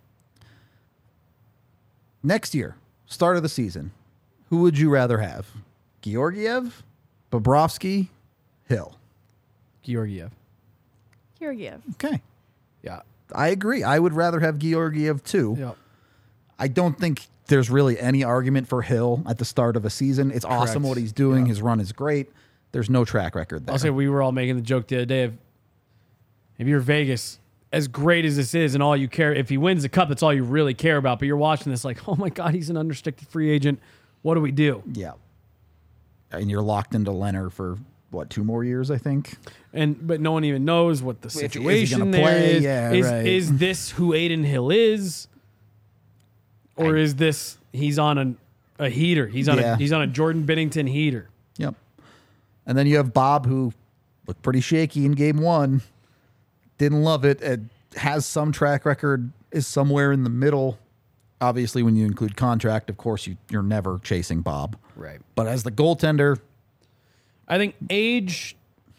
Next year, start of the season, who would you rather have? Georgiev, Bobrovsky, Hill. Georgiev. Georgiev. Okay, Yeah. I agree. I would rather have Georgiev too. Yep. I don't think there's really any argument for Hill at the start of a season. It's awesome Correct. what he's doing. Yeah. His run is great. There's no track record there. I'll say we were all making the joke the other day of if you're Vegas, as great as this is, and all you care, if he wins the cup, that's all you really care about. But you're watching this like, oh my God, he's an unrestricted free agent. What do we do? Yeah. And you're locked into Leonard for what, two more years, I think? And but no one even knows what the Is he gonna situation there play? is. Yeah, is, right. is this who Aiden Hill is, or is this he's on a, a heater? He's on Yeah. a he's on a Jordan Binnington heater. Yep. And then you have Bob, who looked pretty shaky in game one. Didn't love it. It has some track record, is somewhere in the middle. Obviously, when you include contract, of course, you, you're never chasing Bob. Right. But as the goaltender, I think age,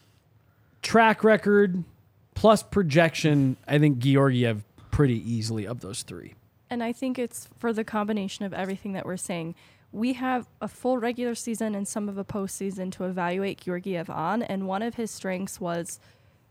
track record, plus projection. I think Georgiev pretty easily of those three. And I think it's for the combination of everything that we're saying. We have a full regular season and some of a postseason to evaluate Georgiev on, and one of his strengths was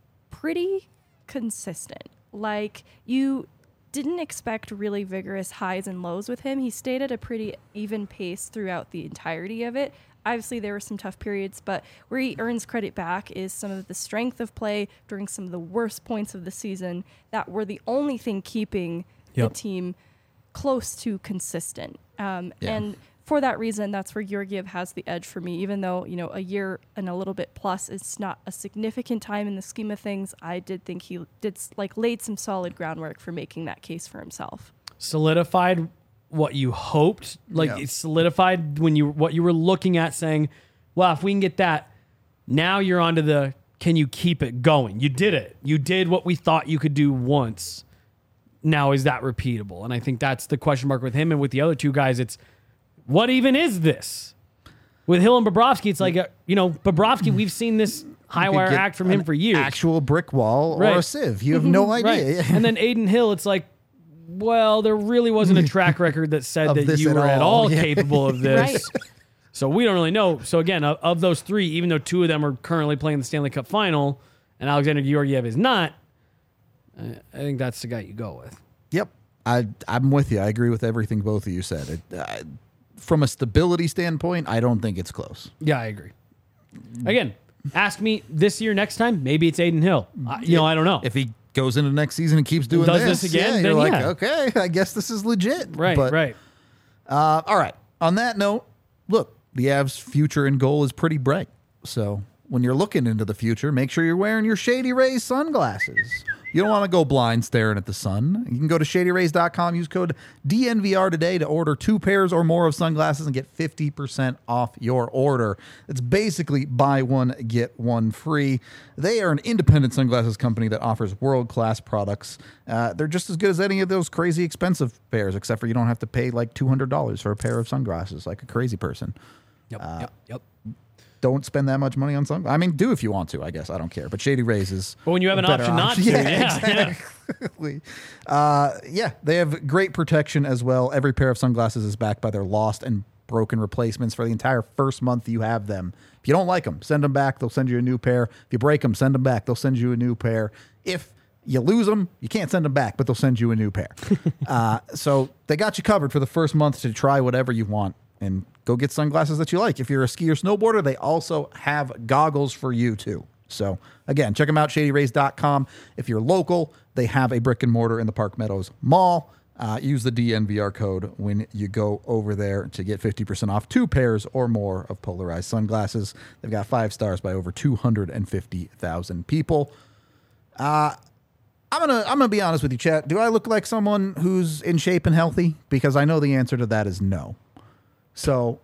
pretty consistent. Like, you didn't expect really vigorous highs and lows with him. He stayed at a pretty even pace throughout the entirety of it. Obviously, there were some tough periods, but where he earns credit back is some of the strength of play during some of the worst points of the season that were the only thing keeping Yep. the team close to consistent. Um, Yeah. And for that reason, that's where Georgiev has the edge for me. Even though, you know, a year and a little bit plus is not a significant time in the scheme of things, I did think he did like laid some solid groundwork for making that case for himself. Solidified what you hoped, like Yeah. it solidified when you what you were looking at, saying, well, if we can get that, now you're onto the can you keep it going? You did it. You did what we thought you could do once. Now is that repeatable? And I think that's the question mark with him, and with the other two guys, it's what even is this? With Hill and Bobrovsky, it's like a, you know, Bobrovsky, we've seen this high you could wire get act from him an for years. Actual brick wall or Right. a sieve. You have no idea. Right. And then Aiden Hill, it's like, well, there really wasn't a track record that said Of that this you at were at all. all Yeah. capable of this. Right. So we don't really know. So again, of, of those three, even though two of them are currently playing the Stanley Cup final and Alexander Georgiev is not, uh, I think that's the guy you go with. Yep. I, I'm with you. I agree with everything both of you said. It, uh, from a stability standpoint, I don't think it's close. Yeah, I agree. Again, ask me this year, next time, maybe it's Aiden Hill. Uh, you know, I don't know. If he goes into next season and keeps doing Does this, this again, yeah, then you're like, yeah. okay, I guess this is legit. right, But, right. Uh, all right. On that note, look, the Avs' future and goal is pretty bright. So when you're looking into the future, make sure you're wearing your Shady Rays sunglasses. You don't want to go blind staring at the sun. You can go to shady rays dot com, use code D N V R today to order two pairs or more of sunglasses and get fifty percent off your order. It's basically buy one, get one free. They are an independent sunglasses company that offers world-class products. Uh, they're just as good as any of those crazy expensive pairs, except for you don't have to pay like two hundred dollars for a pair of sunglasses like a crazy person. Yep, Uh, yep, yep. Don't spend that much money on sunglasses. I mean, do if you want to, I guess. I don't care. But Shady Rays is But when you have a an better option not to, Yeah, yeah, yeah. exactly. Uh, yeah, they have great protection as well. Every pair of sunglasses is backed by their lost and broken replacements for the entire first month you have them. If you don't like them, send them back. They'll send you a new pair. If you break them, send them back. They'll send you a new pair. If you lose them, you can't send them back, but they'll send you a new pair. uh, so they got you covered for the first month to try whatever you want. And go get sunglasses that you like. If you're a skier or snowboarder, they also have goggles for you too. So again, check them out, shady rays dot com. If you're local, they have a brick and mortar in the Park Meadows Mall. Uh, use the D N V R code when you go over there to get fifty percent off two pairs or more of polarized sunglasses. They've got five stars by over two hundred fifty thousand people. Uh, I'm gonna I'm gonna be honest with you, chat. Do I look like someone who's in shape and healthy? Because I know the answer to that is no. So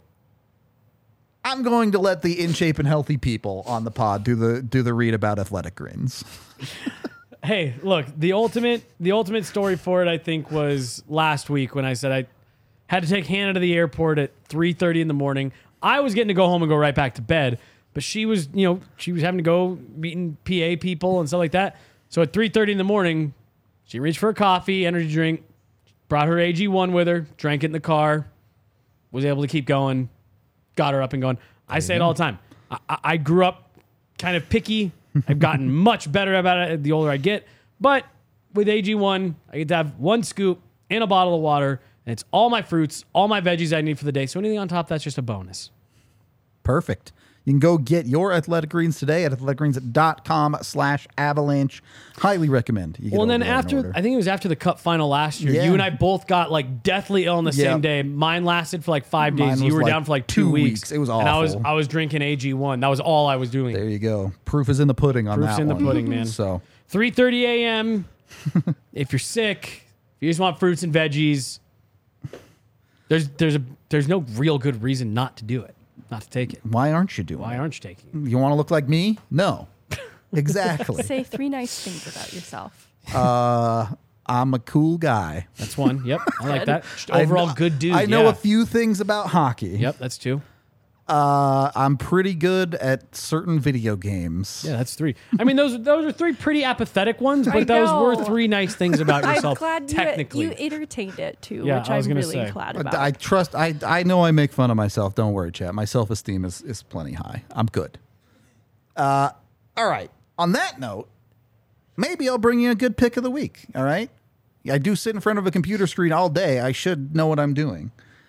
I'm going to let the in shape and healthy people on the pod do the do the read about Athletic Greens. Hey, look, the ultimate the ultimate story for it, I think, was last week when I said I had to take Hannah to the airport at three thirty in the morning. I was getting to go home and go right back to bed, but she was, you know, she was having to go meeting P A people and stuff like that. So at three thirty in the morning, she reached for a coffee, energy drink, brought her A G one with her, drank it in the car, was able to keep going, got her up and going. I say it all the time. I, I grew up kind of picky. I've gotten much better about it the older I get. But with A G one, I get to have one scoop in a bottle of water, and it's all my fruits, all my veggies I need for the day. So anything on top, that's just a bonus. Perfect. You can go get your Athletic Greens today at athletic greens dot com slash avalanche. Highly recommend. You get Well, and then over there in after, order. I think it was after the Cup final last year, Yeah. you and I both got like deathly ill on the Yep. same day. Mine lasted for like five Mine days. was You were like down for like two two, weeks. weeks. It was And I was, awful. I was drinking A G one. That was all I was doing. There you go. Proof is in the pudding on Proof's that in the one. pudding, man. So three thirty a.m. If you're sick, if you just want fruits and veggies, there's there's a there's no real good reason not to do it, not to take it. why aren't you doing Why it? aren't you taking it? You want to look like me? No. Exactly. Say three nice things about yourself. uh, I'm a cool guy. That's one. Yep, I like that. Just I overall know- good dude. I know yeah. a few things about hockey. Yep, that's two. Uh, I'm pretty good at certain video games. Yeah, that's three. I mean, those those are three pretty apathetic ones, but I those were know. three nice things about I'm yourself. glad you, technically, you entertained it too, Yeah, which I was I'm gonna really say. glad But about. I trust. I I know I make fun of myself. Don't worry, chat. My self esteem is is plenty high. I'm good. Uh, all right. On that note, maybe I'll bring you a good pick of the week. All right. I do sit in front of a computer screen all day. I should know what I'm doing.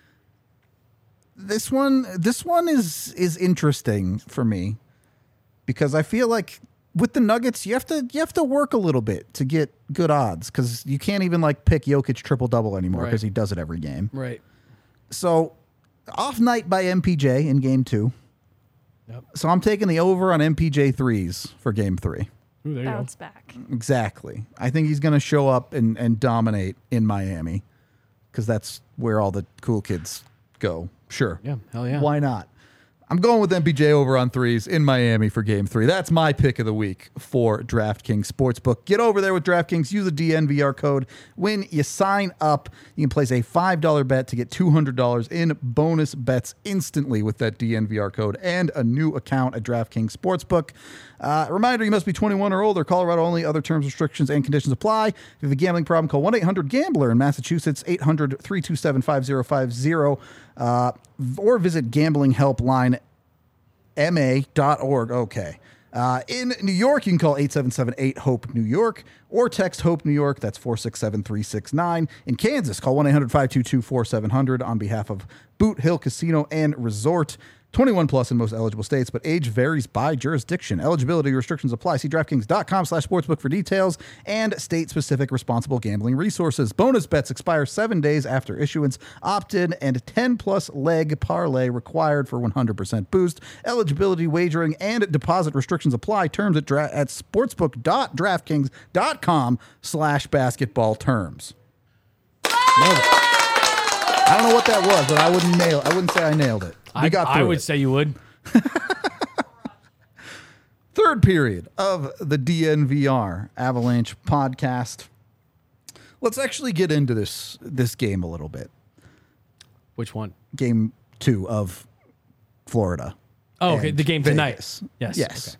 This one, this one is is interesting for me because I feel like with the Nuggets, you have to you have to work a little bit to get good odds because you can't even like pick Jokic triple double anymore Right. because he does it every game. right? So off night by M P J in game two. Yep. So I'm taking the over on M P J threes for game three. Ooh, there you go. Bounce back. Exactly. I think he's going to show up and, and dominate in Miami because that's where all the cool kids go. Sure. Yeah, hell yeah. Why not? I'm going with M P J over on threes in Miami for game three. That's my pick of the week for DraftKings Sportsbook. Get over there with DraftKings. Use the D N V R code. When you sign up, you can place a five dollar bet to get two hundred dollars in bonus bets instantly with that D N V R code and a new account at DraftKings Sportsbook. Uh, reminder, you must be twenty-one or older. Colorado only. Other terms, restrictions, and conditions apply. If you have a gambling problem, call one eight hundred gambler in Massachusetts, eight hundred, three two seven, five zero five zero, uh, or visit gambling helpline M A dot org. Okay. Uh, in New York, you can call eight seven seven eight HOPE New York or text HOPE New York. That's four six seven three six nine. In Kansas, call one eight hundred five two two four seven zero zero on behalf of Boot Hill Casino and Resort. twenty-one plus in most eligible states, but age varies by jurisdiction. Eligibility restrictions apply. See DraftKings.com slash sportsbook for details and state-specific responsible gambling resources. Bonus bets expire seven days after issuance. Opt-in and ten-plus leg parlay required for one hundred percent boost. Eligibility, wagering, and deposit restrictions apply. Terms at, dra- at sportsbook.draftkings.com slash basketball terms. I don't know what that was, but I wouldn't nail. I wouldn't say I nailed it. We I, got I through would it. say you would. Third period of the D N V R Avalanche podcast. Let's actually get into this this game a little bit. Which one? Game two of Florida. Oh, okay. and The game Vegas. tonight. Yes. Yes.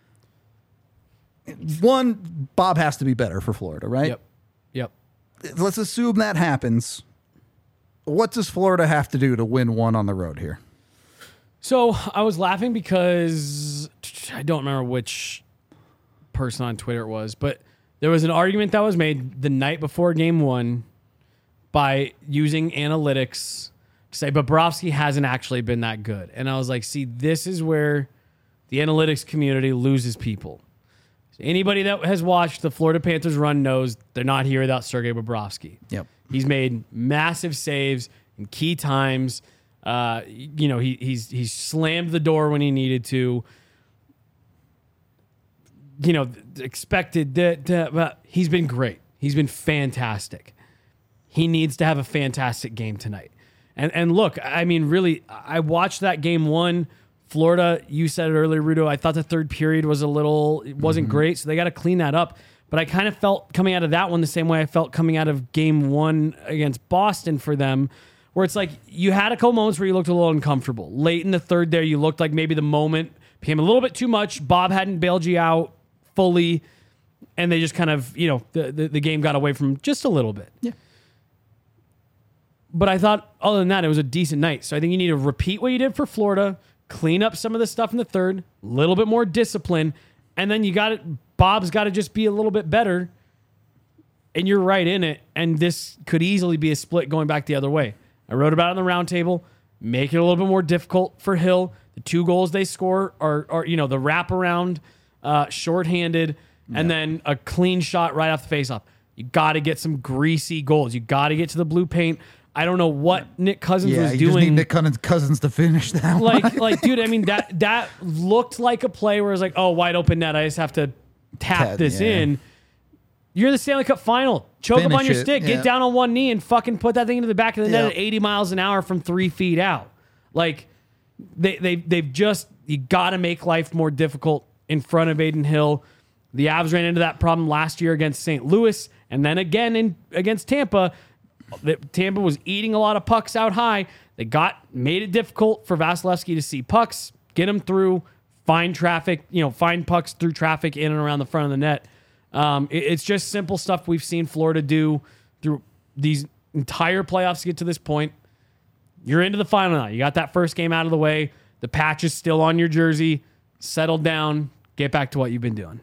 One, Bob has to be better for Florida, right? Yep. Yep. Let's assume that happens. What does Florida have to do to win one on the road here? So I was laughing because I don't remember which person on Twitter it was, but there was an argument that was made the night before game one by using analytics to say Bobrovsky hasn't actually been that good. And I was like, see, this is where the analytics community loses people. Anybody that has watched the Florida Panthers run knows they're not here without Sergei Bobrovsky. Yep. He's made massive saves in key times. Uh, you know, he he's he's slammed the door when he needed to. You know, expected that, but he's been great. He's been fantastic. He needs to have a fantastic game tonight. And and look, I mean, really, I watched that game one. Florida, you said it earlier, Rudo. I thought the third period was a little, it wasn't mm-hmm. great, so they got to clean that up. But I kind of felt coming out of that one the same way I felt coming out of game one against Boston for them, where it's like you had a couple moments where you looked a little uncomfortable. Late in the third there, you looked like maybe the moment became a little bit too much. Bob hadn't bailed you out fully, and they just kind of, you know, the, the, the game got away from just a little bit. Yeah. But I thought, other than that, it was a decent night. So I think you need to repeat what you did for Florida, clean up some of the stuff in the third, a little bit more discipline, and then you got it. Bob's got to just be a little bit better, and you're right in it. And this could easily be a split going back the other way. I wrote about it on the roundtable. Make it a little bit more difficult for Hill. The two goals they score are, are you know, the wraparound, uh, shorthanded, and Yeah. then a clean shot right off the faceoff. You got to get some greasy goals. You got to get to the blue paint. I don't know what Nick Cousins Yeah, was you doing. just need Nick Cousins, Cousins to finish that like, one. like, dude, I mean, that that looked like a play where it's like, oh, wide open net. I just have to tap Ted, this yeah. in. You're in the Stanley Cup final. Choke up Finish on your it, stick. yeah. Get down on one knee and fucking put that thing into the back of the net Yeah. at eighty miles an hour from three feet out. Like, they, they, they've just, you got to make life more difficult in front of Aiden Hill. The Avs ran into that problem last year against Saint Louis, and then again in against Tampa. That Tampa was eating a lot of pucks out high. They got made it difficult for Vasilevsky to see pucks, get them through, find traffic, you know, find pucks through traffic in and around the front of the net. Um, it, it's just simple stuff we've seen Florida do through these entire playoffs to get to this point. You're into the final now. You got that first game out of the way. The patch is still on your jersey. Settle down. Get back to what you've been doing.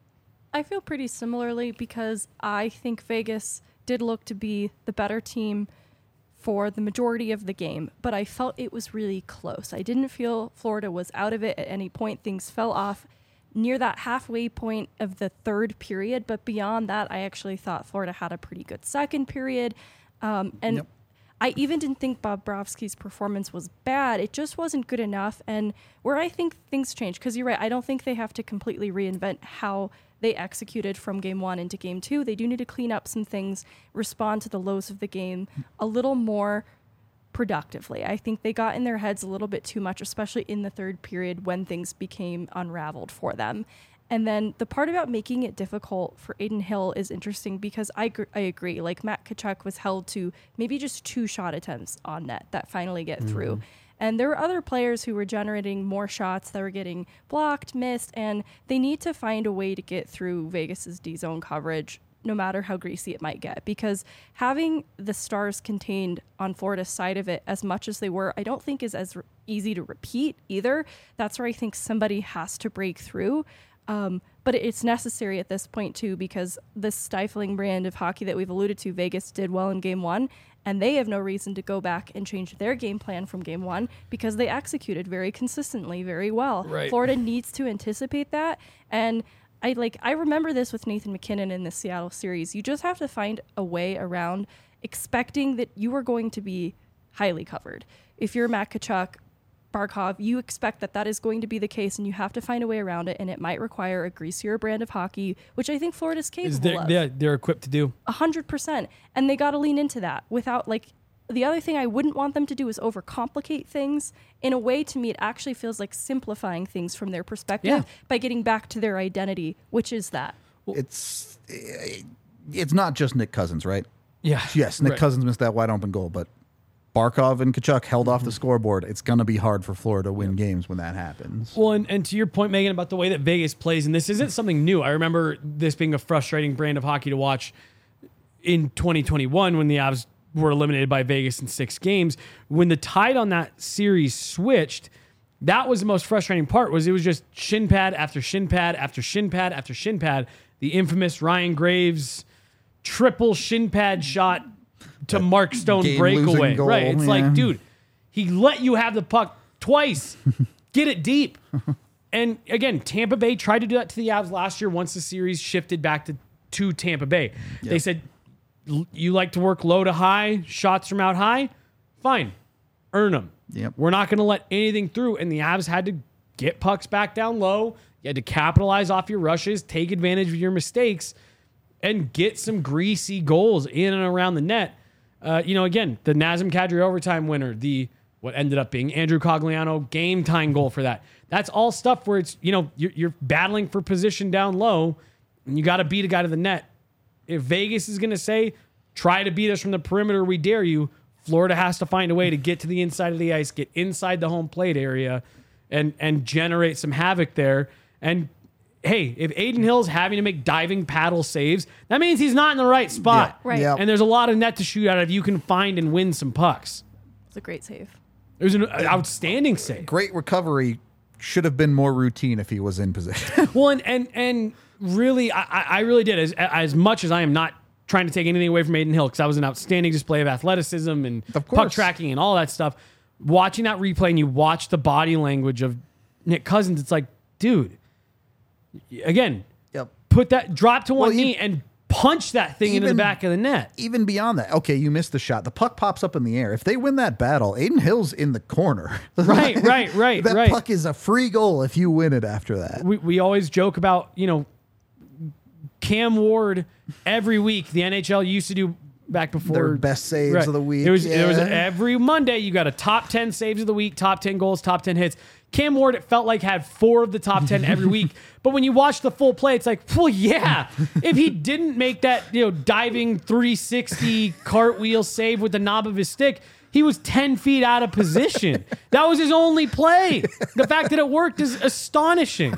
I feel pretty similarly because I think Vegas did look to be the better team for the majority of the game, but I felt it was really close. I didn't feel Florida was out of it at any point. Things fell off near that halfway point of the third period, but beyond that, I actually thought Florida had a pretty good second period. Um, and Yep. I even didn't think Bobrovsky's performance was bad. It just wasn't good enough. And where I think things change, because you're right, I don't think they have to completely reinvent how they executed from game one into game two. They do need to clean up some things, respond to the lows of the game a little more productively. I think they got in their heads a little bit too much, especially in the third period when things became unraveled for them. And then the part about making it difficult for Aiden Hill is interesting because I, gr- I agree. Like Matt Tkachuk was held to maybe just two shot attempts on net that finally get mm-hmm. through. And there were other players who were generating more shots that were getting blocked, missed, and they need to find a way to get through Vegas's D-zone coverage, no matter how greasy it might get. Because having the Stars contained on Florida's side of it as much as they were, I don't think is as re- easy to repeat either. That's where I think somebody has to break through. Um, but but it's necessary at this point too, because this stifling brand of hockey that we've alluded to, Vegas did well in game one, and they have no reason to go back and change their game plan from game one because they executed very consistently, very well. Right. Florida needs to anticipate that. And I like I remember this with Nathan MacKinnon in the Seattle series. You just have to find a way around expecting that you are going to be highly covered. If you're Matt Tkachuk, Barkov, you expect that that is going to be the case, and you have to find a way around it, and it might require a greasier brand of hockey, which I think Florida's capable Is they're, of. they're, they're equipped to do. A hundred percent. And they got to lean into that without like, the other thing I wouldn't want them to do is overcomplicate things. In a way, to me, it actually feels like simplifying things from their perspective Yeah. by getting back to their identity, which is that. It's it's not just Nick Cousins, right? Yeah. Yes, Nick Right. Cousins missed that wide open goal, but Barkov and Tkachuk held off the scoreboard. It's going to be hard for Florida to win games when that happens. Well, and, and to your point, Megan, about the way that Vegas plays, and this isn't something new. I remember this being a frustrating brand of hockey to watch in twenty twenty-one when the Avs were eliminated by Vegas in six games. When the tide on that series switched, that was the most frustrating part. Was it was just shin pad after shin pad after shin pad after shin pad. The infamous Ryan Graves triple shin pad shot to Mark Stone game-losing breakaway. goal, Right? It's yeah. like, dude, he let you have the puck twice. Get it deep. And again, Tampa Bay tried to do that to the Avs last year once the series shifted back to, to Tampa Bay. They said, "L- you like to work low to high, shots from out high? Fine. Earn them. Yep. We're not going to let anything through." And the Avs had to get pucks back down low. You had to capitalize off your rushes, take advantage of your mistakes, and get some greasy goals in and around the net. Uh, you know, again, the Nazem Kadri overtime winner, the what ended up being Andrew Cogliano game time goal for that. That's all stuff where it's, you know, you're, you're battling for position down low, and you got to beat a guy to the net. If Vegas is going to say, try to beat us from the perimeter, we dare you, Florida has to find a way to get to the inside of the ice, get inside the home plate area, and and generate some havoc there. And hey, if Aiden Hill's having to make diving paddle saves, that means he's not in the right spot. Yeah. Right. Yep. And there's a lot of net to shoot out of. You can find and win some pucks. It's a great save. It was an outstanding save. Great recovery. Should have been more routine if he was in position. Well, and and, and really, I, I I really did. As as much as I am not trying to take anything away from Aiden Hill, because that was an outstanding display of athleticism and Of puck course. tracking and all that stuff. Watching that replay and you watch the body language of Nick Cousins, it's like, dude, again, Yep. put that, drop to one Well, knee e- and punch that thing into the even- back of the net. Even beyond that, okay, you missed the shot. The puck pops up in the air. If they win that battle, Aiden Hill's in the corner. Right, right, right, that right. puck is a free goal if you win it after that. We we always joke about, you know, Cam Ward every week. The N H L used to do back before Their best saves of the week, It was it was yeah. every Monday you got a top ten saves of the week, top ten goals, top ten hits. Cam Ward, it felt like, had four of the top ten every week. But when you watch the full play, it's like, well, yeah. If he didn't make that, you know, diving three sixty cartwheel save with the knob of his stick, he was ten feet out of position. That was his only play. The fact that it worked is astonishing.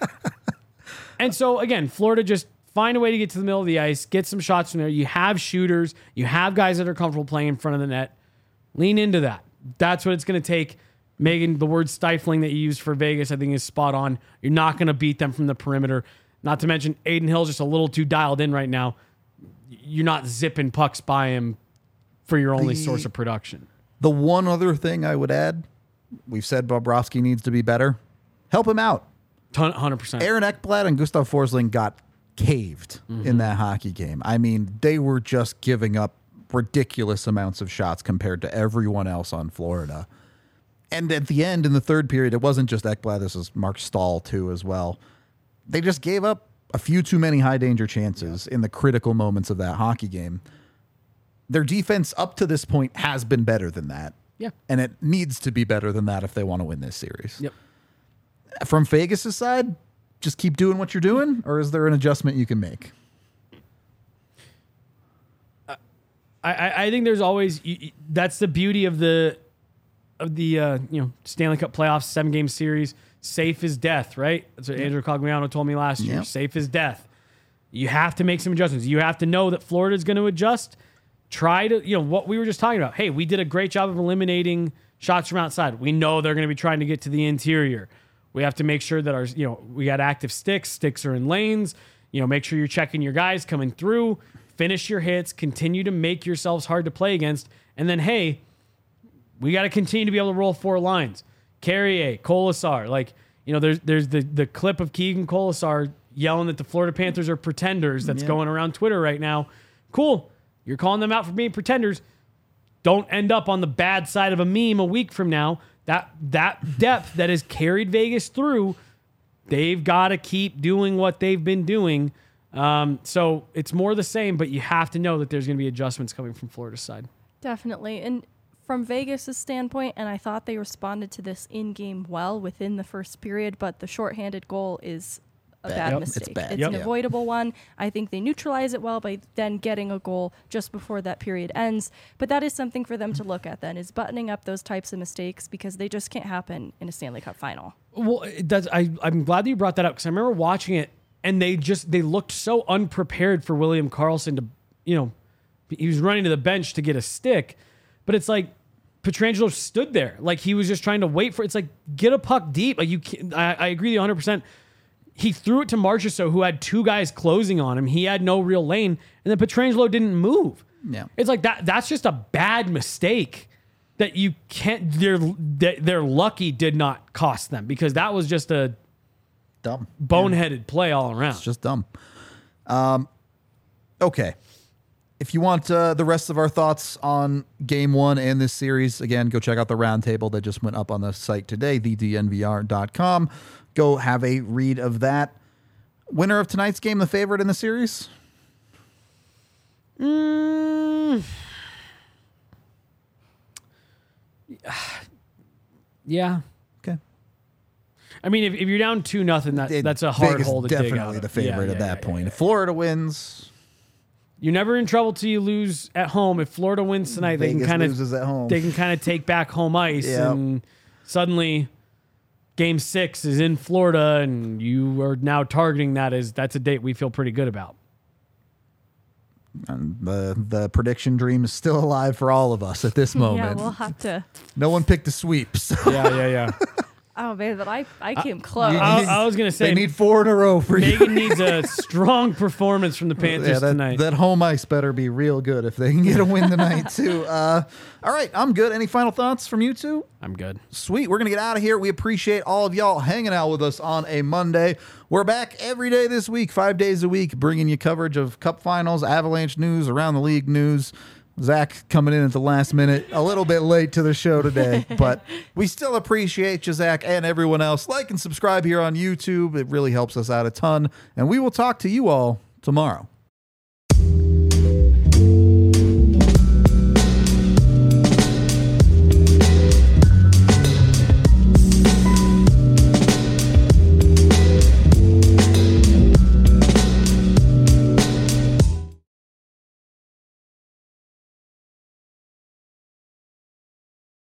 And so, again, Florida just find a way to get to the middle of the ice, get some shots from there. You have shooters. You have guys that are comfortable playing in front of the net. Lean into that. That's what it's going to take. Megan, the word stifling that you used for Vegas, I think, is spot on. You're not going to beat them from the perimeter. Not to mention, Aiden Hill's just a little too dialed in right now. You're not zipping pucks by him for your only The- source of production. The one other thing I would add, we've said Bobrovsky needs to be better. Help him out. Ton, one hundred percent. Aaron Ekblad and Gustav Forsling got caved in that hockey game. I mean, they were just giving up ridiculous amounts of shots compared to everyone else on Florida. And at the end, in the third period, it wasn't just Ekblad. This was Mark Stahl, too, as well. They just gave up a few too many high-danger chances in the critical moments of that hockey game. Their defense up to this point has been better than that. Yeah. And it needs to be better than that if they want to win this series. Yep. From Vegas' side, just keep doing what you're doing, or is there an adjustment you can make? I, I I think there's always you, you- that's the beauty of the of the uh, you know Stanley Cup playoffs, seven game series. Safe as death, right? That's what Andrew Cogliano told me last year. Yep. Safe as death. You have to make some adjustments. You have to know that Florida's going to adjust. Try to, you know, what we were just talking about. Hey, we did a great job of eliminating shots from outside. We know they're going to be trying to get to the interior. We have to make sure that our, you know, we got active sticks. Sticks are in lanes. You know, make sure you're checking your guys coming through. Finish your hits. Continue to make yourselves hard to play against. And then, hey, we got to continue to be able to roll four lines. Carrier, Colasar. Like, you know, there's there's the, the clip of Keegan Colasar yelling that the Florida Panthers are pretenders that's Yeah. going around Twitter right now. Cool. You're calling them out for being pretenders. Don't end up on the bad side of a meme a week from now. That that depth that has carried Vegas through, they've got to keep doing what they've been doing. Um, so it's more the same, but you have to know that there's going to be adjustments coming from Florida's side. Definitely. And from Vegas's standpoint, and I thought they responded to this in-game well within the first period, but the shorthanded goal is a Bad. bad Yep, it's mistake. bad. It's Yep. an avoidable one. I think they neutralize it well by then getting a goal just before that period ends. But that is something for them to look at then, is buttoning up those types of mistakes, because they just can't happen in a Stanley Cup final. Well, it does. I, I'm glad that you brought that up, because I remember watching it and they just, they looked so unprepared for William Karlsson to, you know, he was running to the bench to get a stick, but it's like Pietrangelo stood there. Like he was just trying to wait for, it's like, get a puck deep. Like you can't, I, I agree with you one hundred percent. He threw it to Marchessault, who had two guys closing on him. He had no real lane, and then Pietrangelo didn't move. Yeah. It's like that. That's just a bad mistake that you can't. Their their lucky did not cost them, because that was just a Dumb. boneheaded play all around. It's just dumb. Um, okay. If you want uh, the rest of our thoughts on game one and this series, again, go check out the roundtable that just went up on the site today, the d n v r dot com. Go have a read of that. Winner of tonight's game, the favorite in the series? Mm. Yeah. Okay. I mean, if, if you're down two nothing, that It- that's a hard Vegas hole to dig out. definitely the favorite Yeah, at yeah, that yeah, point. yeah. If Florida wins, You're never in trouble till you lose at home. If Florida wins tonight, they Vegas can kind of loses at home. they can kind of take back home ice, Yep. and suddenly game six is in Florida, and you are now targeting that as that's a date we feel pretty good about. And the the prediction dream is still alive for all of us at this Yeah, moment. we'll have to. No one picked a sweep. So Yeah, yeah, yeah. Oh man, but I I came close. you- I, I was gonna they say need four in a row for you. Megan needs a strong performance from the Panthers Yeah, that, tonight. that home ice better be real good if they can get a win tonight too. Uh, all right, I'm good. Any final thoughts from you two? I'm good. Sweet. We're going to get out of here. We appreciate all of y'all hanging out with us on a Monday. We're back every day this week, five days a week, bringing you coverage of Cup finals, Avalanche news, around the league news. Zach coming in at the last minute, a little bit late to the show today, but we still appreciate you, Zach, and everyone else. Like and subscribe here on YouTube. It really helps us out a ton, and we will talk to you all tomorrow.